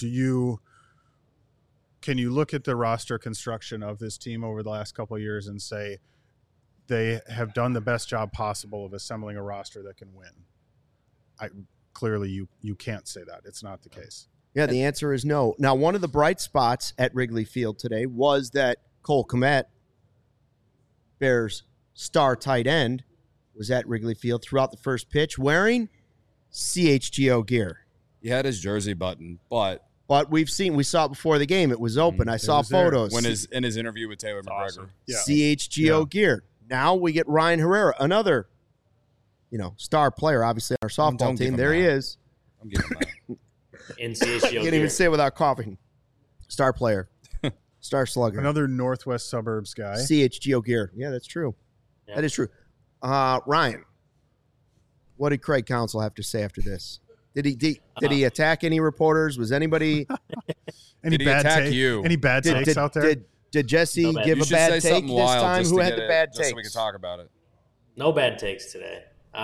can you look at the roster construction of this team over the last couple of years and say they have done the best job possible of assembling a roster that can win? Clearly you can't say that. It's not the case. Yeah, the answer is no. Now, one of the bright spots at Wrigley Field today was that Cole Kmet, Bears star tight end, was at Wrigley Field throughout the first pitch wearing CHGO gear. He had his jersey button, but we saw it before the game. It was open. I saw photos. In his interview with Taylor McGregor. Awesome. Yeah. CHGO gear. Now we get Ryan Herrera, another, star player, obviously, on our softball team. There he is. I'm giving that. In CHGO Can't even say it without coughing. Star player. Star slugger. Another Northwest suburbs guy. CHGO gear. Yeah, that's true. Yeah. That is true. Ryan, what did Craig Counsell have to say after this? Did he attack any reporters? Was anybody Any bad takes out there? Did Jesse give a bad take this time? Who had the bad takes? So we can talk about it. No bad takes today.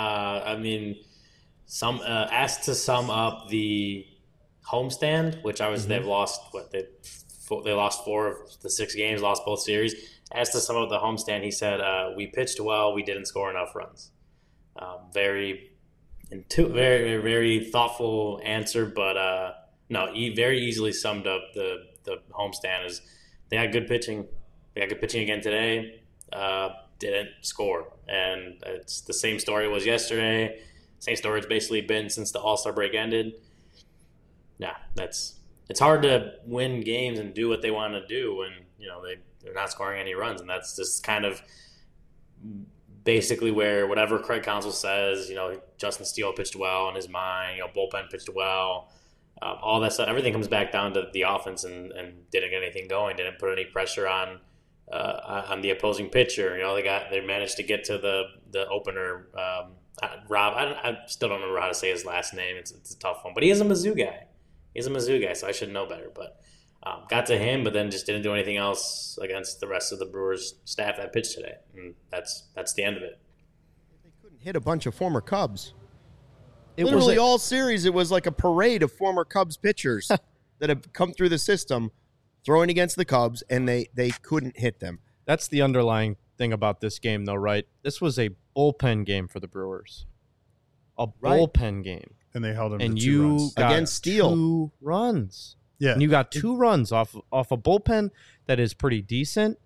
Asked to sum up the homestand, which they've lost they lost 4 of the 6 games, lost both series. Asked to sum up the homestand, he said, "We pitched well, we didn't score enough runs." Very very thoughtful answer, but he very easily summed up the homestand. Is they had good pitching. They had good pitching again today. Didn't score, and it's the same story was yesterday. Same story it's basically been since the All-Star break ended. Yeah, it's hard to win games and do what they want to do when they're not scoring any runs, and that's just kind of basically where whatever Craig Counsell says, Justin Steele pitched well in his mind, bullpen pitched well, all that stuff. Everything comes back down to the offense and didn't get anything going, didn't put any pressure on the opposing pitcher. They managed to get to the opener. Rob, I still don't remember how to say his last name. It's a tough one, but he is a Mizzou guy. So I should know better. But got to him, but then just didn't do anything else against the rest of the Brewers staff that pitched today, and that's the end of it. They couldn't hit a bunch of former Cubs. Literally all series, it was like a parade of former Cubs pitchers that have come through the system throwing against the Cubs, and they couldn't hit them. That's the underlying thing about this game, though, right? This was a bullpen game for the Brewers. A bullpen game. And they held them And to 2 you runs. got Against Steele. 2 runs. Yeah. And you got 2 runs off a bullpen that is pretty decent.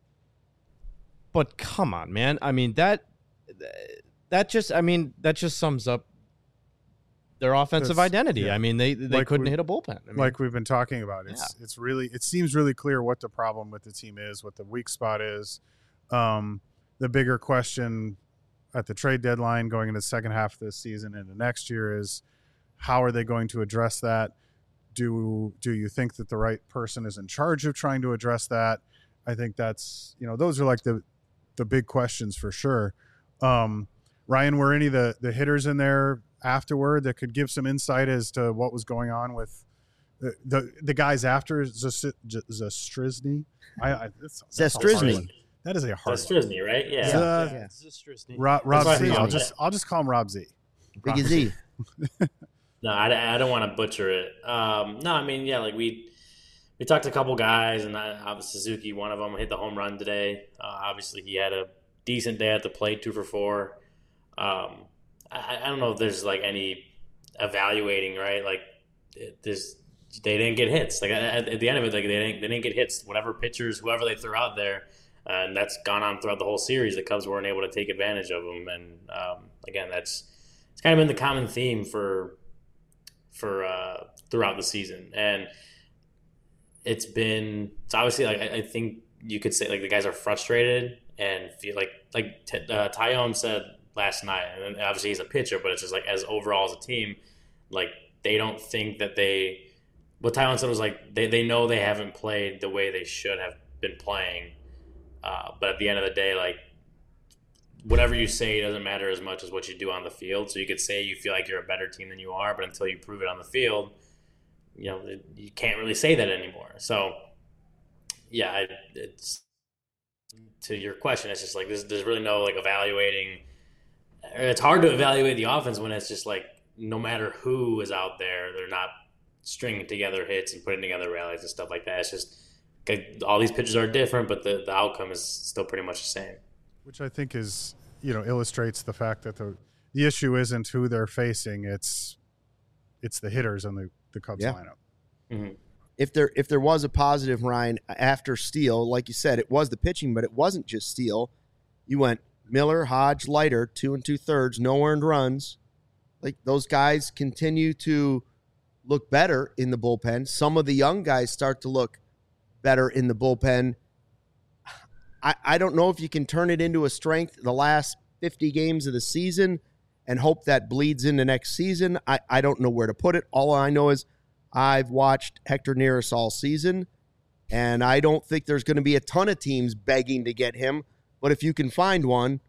But come on, man. I mean, that just sums up their offensive identity. Yeah. I mean, they Like couldn't we- hit a bullpen. I mean, Like we've been talking about, it seems really clear what the problem with the team is, what the weak spot is. The bigger question at the trade deadline going into the second half of this season and the next year is, how are they going to address that? Do you think that the right person is in charge of trying to address that? I think that's, those are like the big questions for sure. Ryan, were any of the hitters in there afterward that could give some insight as to what was going on with the guys after Zastryzny? Zastryzny. That is a hard That's one. Strizny, right? Yeah. Rob That's what I Z. thought. I'll just call him Rob Z. Big Z. No, I don't want to butcher it. No, I mean, yeah, like we talked to a couple guys, and obviously Suzuki, one of them, hit the home run today. Obviously, he had a decent day at the plate, 2 for 4. I don't know if there's like any evaluating, right? Like they didn't get hits. Like at the end of it, like they didn't get hits. Whatever pitchers, whoever they threw out there, and that's gone on throughout the whole series. The Cubs weren't able to take advantage of them, and again, it's kind of been the common theme for throughout the season, and it's obviously like I think you could say like the guys are frustrated and feel like Tyone said last night, and obviously he's a pitcher, but it's just like as overall as a team, like they don't think that what Tyone said was like they know they haven't played the way they should have been playing, but at the end of the day, like whatever you say doesn't matter as much as what you do on the field. So you could say you feel like you're a better team than you are, but until you prove it on the field, you can't really say that anymore. So yeah, it's to your question, it's just like there's really no like evaluating. It's hard to evaluate the offense when it's just like no matter who is out there, they're not stringing together hits and putting together rallies and stuff like that. It's just all these pitches are different, but the outcome is still pretty much the same. Which I think is, illustrates the fact that the issue isn't who they're facing; it's the hitters on the Cubs lineup. Mm-hmm. If there was a positive, Ryan, after Steele, like you said, it was the pitching, but it wasn't just Steele. You went Miller, Hodge, Leiter, 2 2/3, no earned runs. Like those guys continue to look better in the bullpen. Some of the young guys start to look better in the bullpen. I don't know if you can turn it into a strength the last 50 games of the season and hope that bleeds into next season. I don't know where to put it. All I know is I've watched Hector Neris all season, and I don't think there's going to be a ton of teams begging to get him. But if you can find one,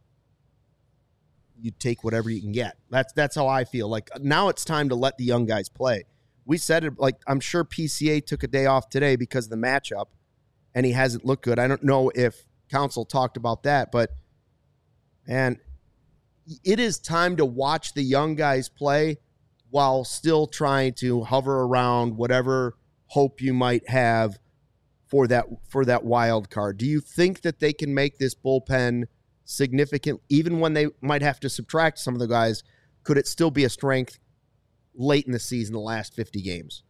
you take whatever you can get. That's how I feel. Like now it's time to let the young guys play. We said it, like I'm sure PCA took a day off today because of the matchup, and he hasn't looked good. I don't know if Council talked about that, but and it is time to watch the young guys play while still trying to hover around whatever hope you might have for that wild card. Do you think that they can make this bullpen significant, even when they might have to subtract some of the guys? Could it still be a strength late in the season, the last 50 games?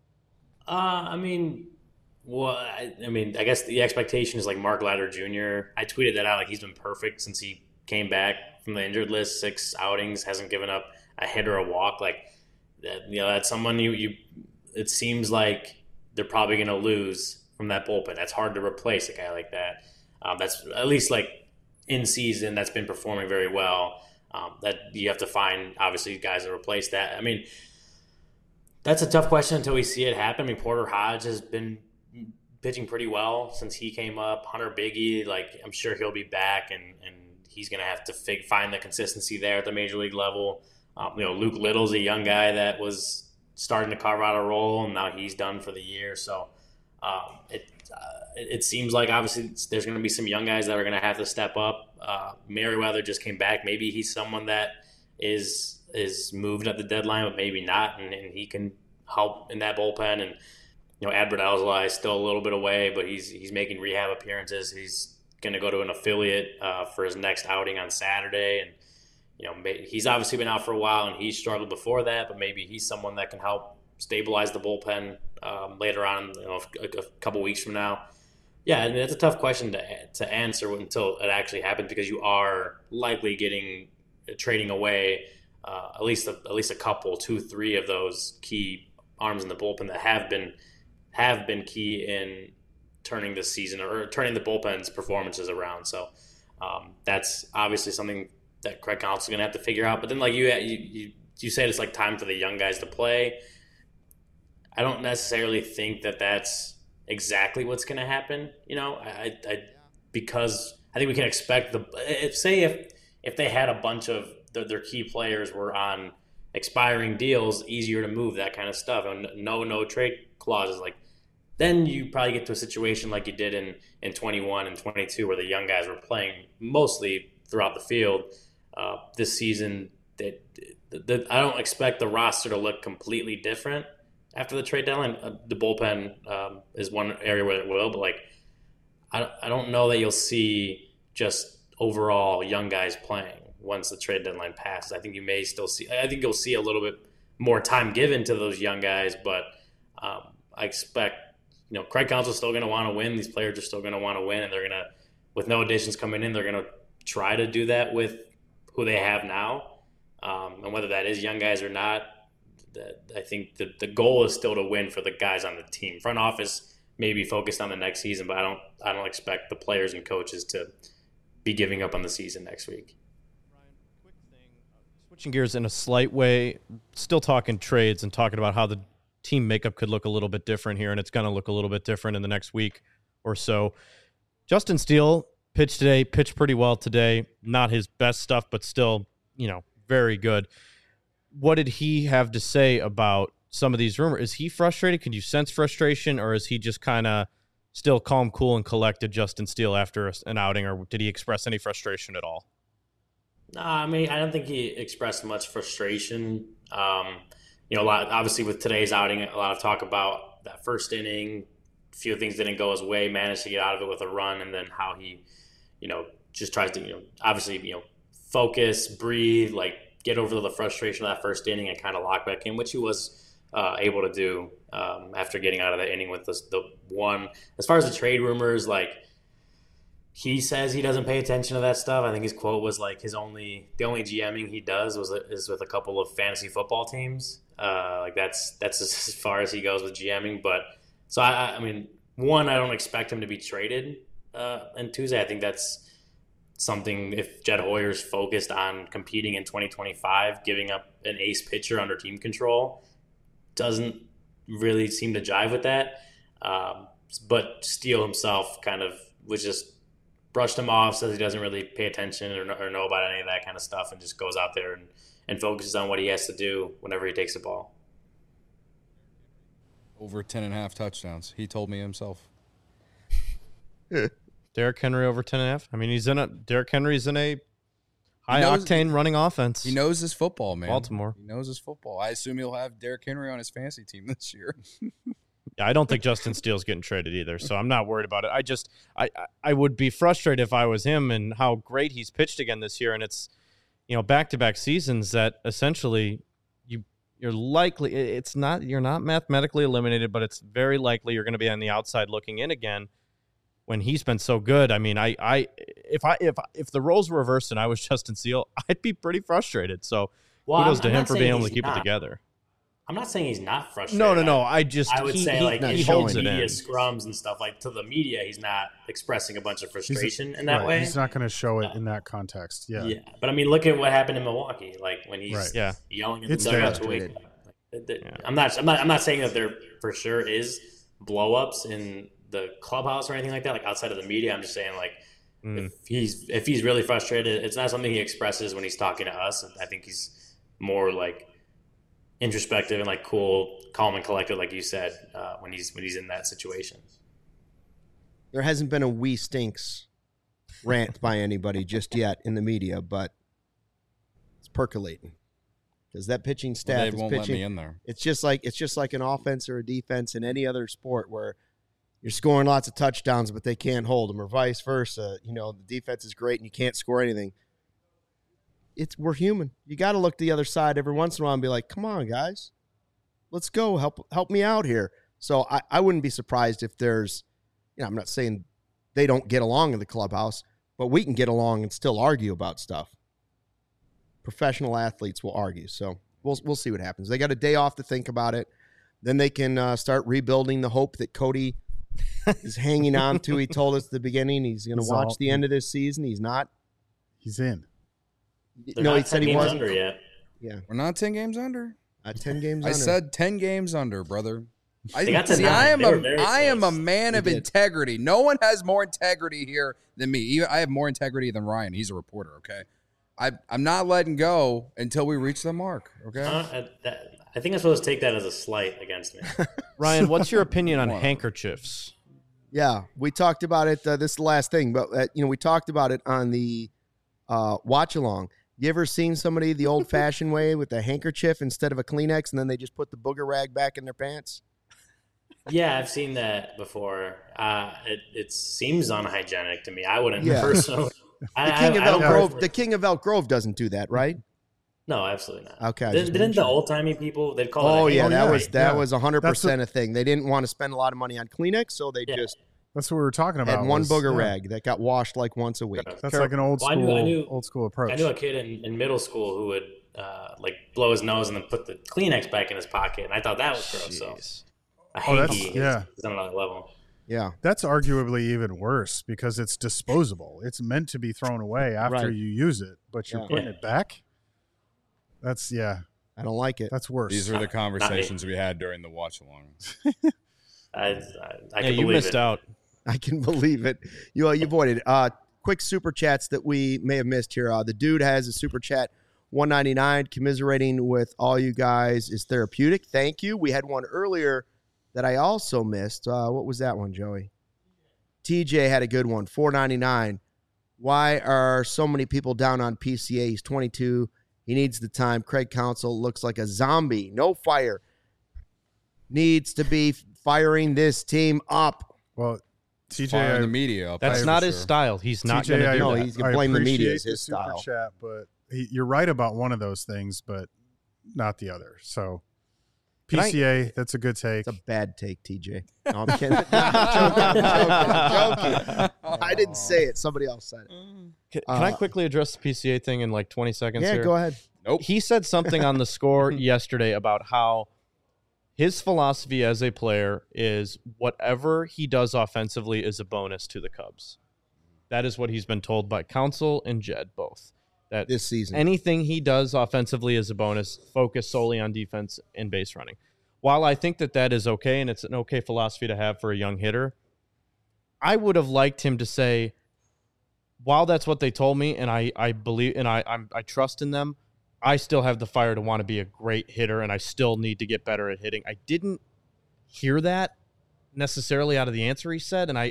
I mean, I guess the expectation is like Mark Leiter Jr. I tweeted that out. Like he's been perfect since he came back from the injured list. 6 outings, hasn't given up a hit or a walk. Like that's someone you. It seems like they're probably going to lose from that bullpen. That's hard to replace a guy like that. That's at least like in season that's been performing very well. That you have to find obviously guys to replace that. I mean, that's a tough question until we see it happen. I mean, Porter Hodge has been pitching pretty well since he came up. Hunter Biggie, like I'm sure he'll be back, and he's going to have to find the consistency there at the major league level. Luke Little's a young guy that was starting to carve out a role, and now he's done for the year. So it seems like obviously there's going to be some young guys that are going to have to step up. Merriweather just came back. Maybe he's someone that is is moved at the deadline, but maybe not, and he can help in that bullpen. And Adbert Alzolay is still a little bit away, but he's making rehab appearances. He's going to go to an affiliate for his next outing on Saturday, and he's obviously been out for a while, and he struggled before that, but maybe he's someone that can help stabilize the bullpen later on, a couple weeks from now. Yeah, I mean, it's a tough question to answer until it actually happens, because you are likely trading away at least a couple, 2-3 of those key arms in the bullpen that have been key in turning the season or turning the bullpen's performances around. So that's obviously something that Craig Counsell is going to have to figure out. But then, like you said, it's like time for the young guys to play. I don't necessarily think that that's exactly what's going to happen. Because I think we can expect if they had a bunch of their key players were on expiring deals, easier to move, that kind of stuff, and no trade clauses, like, then you probably get to a situation like you did in 21 and 22, where the young guys were playing mostly throughout the field. This season, I don't expect the roster to look completely different after the trade deadline. The bullpen is one area where it will, but like, I don't know that you'll see just overall young guys playing once the trade deadline passes. I think you'll see a little bit more time given to those young guys, but I expect, Craig Counsell is still going to want to win. These players are still going to want to win, and they're going to, with no additions coming in, they're going to try to do that with who they have now. And whether that is young guys or not, I think the goal is still to win for the guys on the team. Front office may be focused on the next season, but I don't expect the players and coaches to be giving up on the season next week. Ryan, quick thing, switching gears in a slight way, still talking trades and talking about how the team makeup could look a little bit different here, and it's going to look a little bit different in the next week or so. Justin Steele pitched pretty well today. Not his best stuff, but still, very good. What did he have to say about some of these rumors? Is he frustrated? Can you sense frustration, or is he just kind of still calm, cool, and collected Justin Steele after an outing, or did he express any frustration at all? I mean, I don't think he expressed much frustration. A lot, obviously, with today's outing, a lot of talk about that first inning. A few things didn't go his way, managed to get out of it with a run, and then how he, just tries to, obviously, focus, breathe, like get over the frustration of that first inning and kind of lock back in, which he was able to do after getting out of that inning with the one. As far as the trade rumors, like, he says he doesn't pay attention to that stuff. I think his quote was like the only GMing he does is with a couple of fantasy football teams. Like that's as far as he goes with GMing. But so I mean, one, I don't expect him to be traded on Tuesday. I think that's something, if Jed Hoyer's focused on competing in 2025, giving up an ace pitcher under team control doesn't really seem to jive with that. But Steele himself kind of was just brushed him off, says he doesn't really pay attention or know about any of that kind of stuff, and just goes out there and focuses on what he has to do whenever he takes the ball. Over 10.5 touchdowns. He told me himself. Derrick Henry over 10.5. I mean, Derrick Henry's in a high-octane running offense. He knows his football, man. Baltimore. He knows his football. I assume he'll have Derrick Henry on his fantasy team this year. Yeah, I don't think Justin Steele's getting traded either, so I'm not worried about it. I would be frustrated if I was him and how great he's pitched again this year, and it's, back-to-back seasons that essentially you're not mathematically eliminated, but it's very likely you're going to be on the outside looking in again when he's been so good. I mean, if the roles were reversed and I was Justin Steele, I'd be pretty frustrated. So kudos to him for being able to keep it together. I'm not saying he's not frustrated. No. I would say he holds it media in. Scrums and stuff, like, to the media, he's not expressing a bunch of frustration in that way. He's not going to show it in that context. Yeah. But I mean, look at what happened in Milwaukee. Like when he's right. yelling at the dugout to wake up. I'm not saying that there for sure is blow-ups in the clubhouse or anything like that. Like outside of the media, I'm just saying, like, if he's really frustrated, it's not something he expresses when he's talking to us. I think he's more like introspective and like cool, calm and collected, like you said, when he's in that situation. There hasn't been a "we stinks" rant by anybody just yet in the media, but it's percolating. because that pitching Well, staff they is won't let me pitching. in there. It's just like an offense or a defense in any other sport where you're scoring lots of touchdowns, but they can't hold them, or vice versa. You know, the defense is great and you can't score anything. We're human. You got to look to the other side every once in a while and be like, come on, guys, let's go. Help me out here. So I wouldn't be surprised if there's, I'm not saying they don't get along in the clubhouse, but we can get along and still argue about stuff. Professional athletes will argue. So we'll see what happens. They got a day off to think about it. Then they can start rebuilding the hope that Cody is hanging on to. He told us at the beginning he's going to watch the end of this season. He's not. He's in. He said he wasn't under yet. Yeah, We're not 10 games under. 10 games. I under. said 10 games under, brother. They got to See, 9. I They were very am a close. man of did. integrity. No one has more integrity here than me. I have more integrity than Ryan. He's a reporter, okay? I'm not letting go until we reach the mark, okay? I think I'm supposed to take that as a slight against me. Ryan, what's your opinion on handkerchiefs? Yeah, we talked about it. This is the last thing, but we talked about it on the watch along. You ever seen somebody the old-fashioned way with a handkerchief instead of a Kleenex, and then they just put the booger rag back in their pants? Yeah, I've seen that before. It seems unhygienic to me. I wouldn't Yeah. personally. The King of Elk Grove doesn't do that, right? No, absolutely not. Okay. Didn't the old timey people? They'd call Oh it. yeah, that yeah. was 100% That's a thing. They didn't want to spend a lot of money on Kleenex, so they just That's what we were talking about. had one was- booger yeah. rag that got washed like once a week. That's like an old Well, school, I knew approach. I knew a kid in middle school who would blow his nose and then put the Kleenex back in his pocket, and I thought that was gross. So a hanky is on another level. Yeah. That's arguably even worse because it's disposable. It's meant to be thrown away after Right. you use it, but you're Yeah. putting it back. That's I don't like it. that's worse. These are the conversations we had during the watch along. I Yeah, can you believe missed it. out. I can believe it. You avoided. Quick super chats that we may have missed here. The dude has a super chat, $1.99, commiserating with all you guys is therapeutic. Thank you. We had one earlier that I also missed. What was that one, Joey? TJ had a good one, $4.99. Why are so many people down on PCA? He's 22. He needs the time. Craig Counsell looks like a zombie. No fire. Needs to be firing this team up. Well, TJ, Firing the media up. That's for not his sure. style. He's not TJ, going to I- do No, that. he's going to blame the media as appreciate his the super style. chat, but you're right about one of those things, but not the other. So PCA, that's a good take. It's a bad take, TJ. No, I'm kidding. I'm joking. I didn't say it. Somebody else said it. Can I quickly address the PCA thing in like 20 seconds Yeah, here? go ahead. Nope. He said something on the score yesterday about how his philosophy as a player is whatever he does offensively is a bonus to the Cubs. That is what he's been told by Counsell and Jed both. That This season. anything he does offensively is a bonus, focus solely on defense and base running. While I think that is okay and it's an okay philosophy to have for a young hitter, I would have liked him to say, while that's what they told me and I believe and I trust in them, I still have the fire to want to be a great hitter and I still need to get better at hitting. I didn't hear that necessarily out of the answer he said, and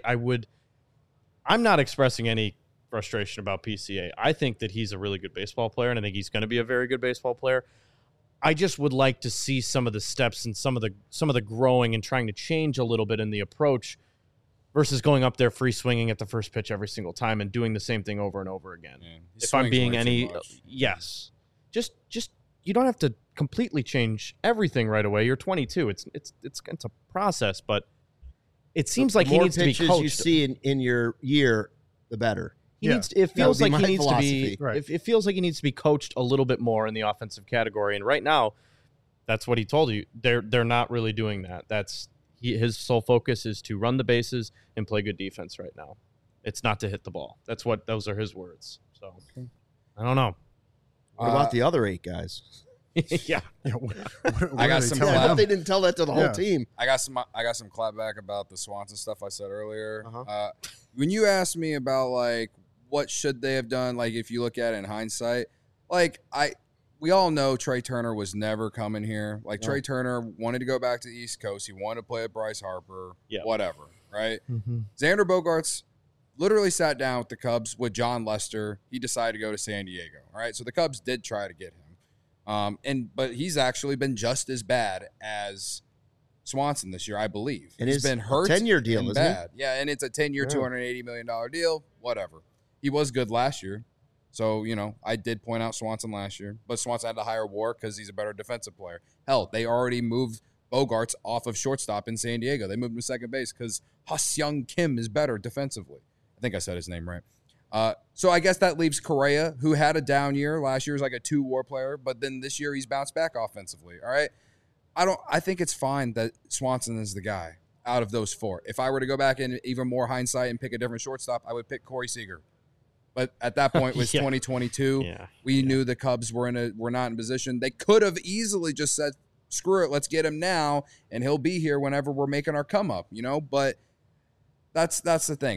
I'm not expressing any frustration about PCA. I think that he's a really good baseball player, and I think he's going to be a very good baseball player. I just would like to see some of the steps and some of the growing and trying to change a little bit in the approach versus going up there free swinging at the first pitch every single time and doing the same thing over and over again. Yeah, he If I'm swings being way too any much. yes. Just you don't have to completely change everything right away. You're 22. It's a process, but it seems like The he more needs to be pitches coached. you see in your year, the better. He Yeah. needs to, it That feels would be like he my needs philosophy. to be Right. it feels like he needs to be coached a little bit more in the offensive category. And right now, that's what he told you. They're not really doing that. His sole focus is to run the bases and play good defense right now. It's not to hit the ball. Those are his words. So I don't know. What about the other 8 guys? Yeah. What I are got they some telling I clap. hope they didn't tell that to the whole Yeah. team. I got some clap back about the Swanson stuff I said earlier. Uh-huh. When you asked me about like what should they have done, like if you look at it in hindsight, like we all know Trey Turner was never coming here. Like No. Trey Turner wanted to go back to the East Coast. He wanted to play with Bryce Harper. Yeah. Whatever. Right. Mm-hmm. Xander Bogaerts literally sat down with the Cubs with John Lester. He decided to go to San Diego. All right. So the Cubs did try to get him. But he's actually been just as bad as Swanson this year, I believe. And he's been hurt. 10-year deal, and isn't bad. Yeah, and it's a 10-year, Yeah. $280 million deal. Whatever. He was good last year. So, I did point out Swanson last year. But Swanson had to hire War because he's a better defensive player. Hell, they already moved Bogarts off of shortstop in San Diego. They moved him to second base because Ha-Seong Kim is better defensively. I think I said his name right. So I guess that leaves Correa, who had a down year. Last year was like a 2 WAR player, but then this year he's bounced back offensively. All right. I think it's fine that Swanson is the guy out of those 4. If I were to go back in even more hindsight and pick a different shortstop, I would pick Corey Seager. But at that point, it was 2022. Yeah. We knew the Cubs were not in position. They could have easily just said, screw it, let's get him now, and he'll be here whenever we're making our come up, But that's the thing.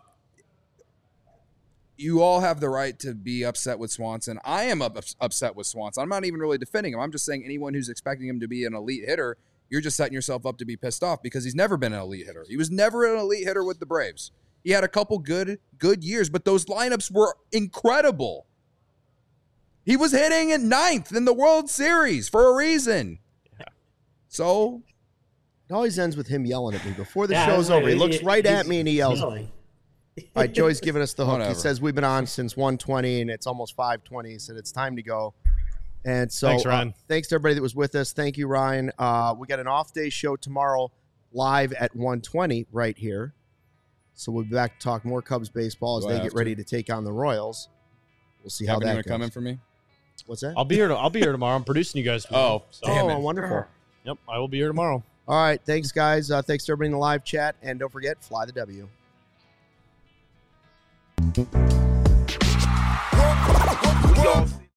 You all have the right to be upset with Swanson. I am upset with Swanson. I'm not even really defending him. I'm just saying anyone who's expecting him to be an elite hitter, you're just setting yourself up to be pissed off because he's never been an elite hitter. He was never an elite hitter with the Braves. He had a couple good years, but those lineups were incredible. He was hitting at 9th in the World Series for a reason. Yeah. So It always ends with him yelling at me before the Yeah, show's like, over. He looks right at me and he yells. yelling. All right, Joey's giving us the hook. Whatever. He says we've been on since 1:20 and it's almost 5:20. He said it's time to go. And so Thanks, Ryan. Thanks to everybody that was with us. Thank you, Ryan. We got an off-day show tomorrow live at 1:20 right here. So we'll be back to talk more Cubs baseball as Do I they have get ready to take on the Royals. We'll see how Kevin, that you goes. gonna come in for me? What's that? I'll be here tomorrow. I'm producing you guys tomorrow. Oh, damn it. Wonderful. Yep, I will be here tomorrow. All right, thanks, guys. Thanks to everybody in the live chat. And don't forget, fly the W. Y'all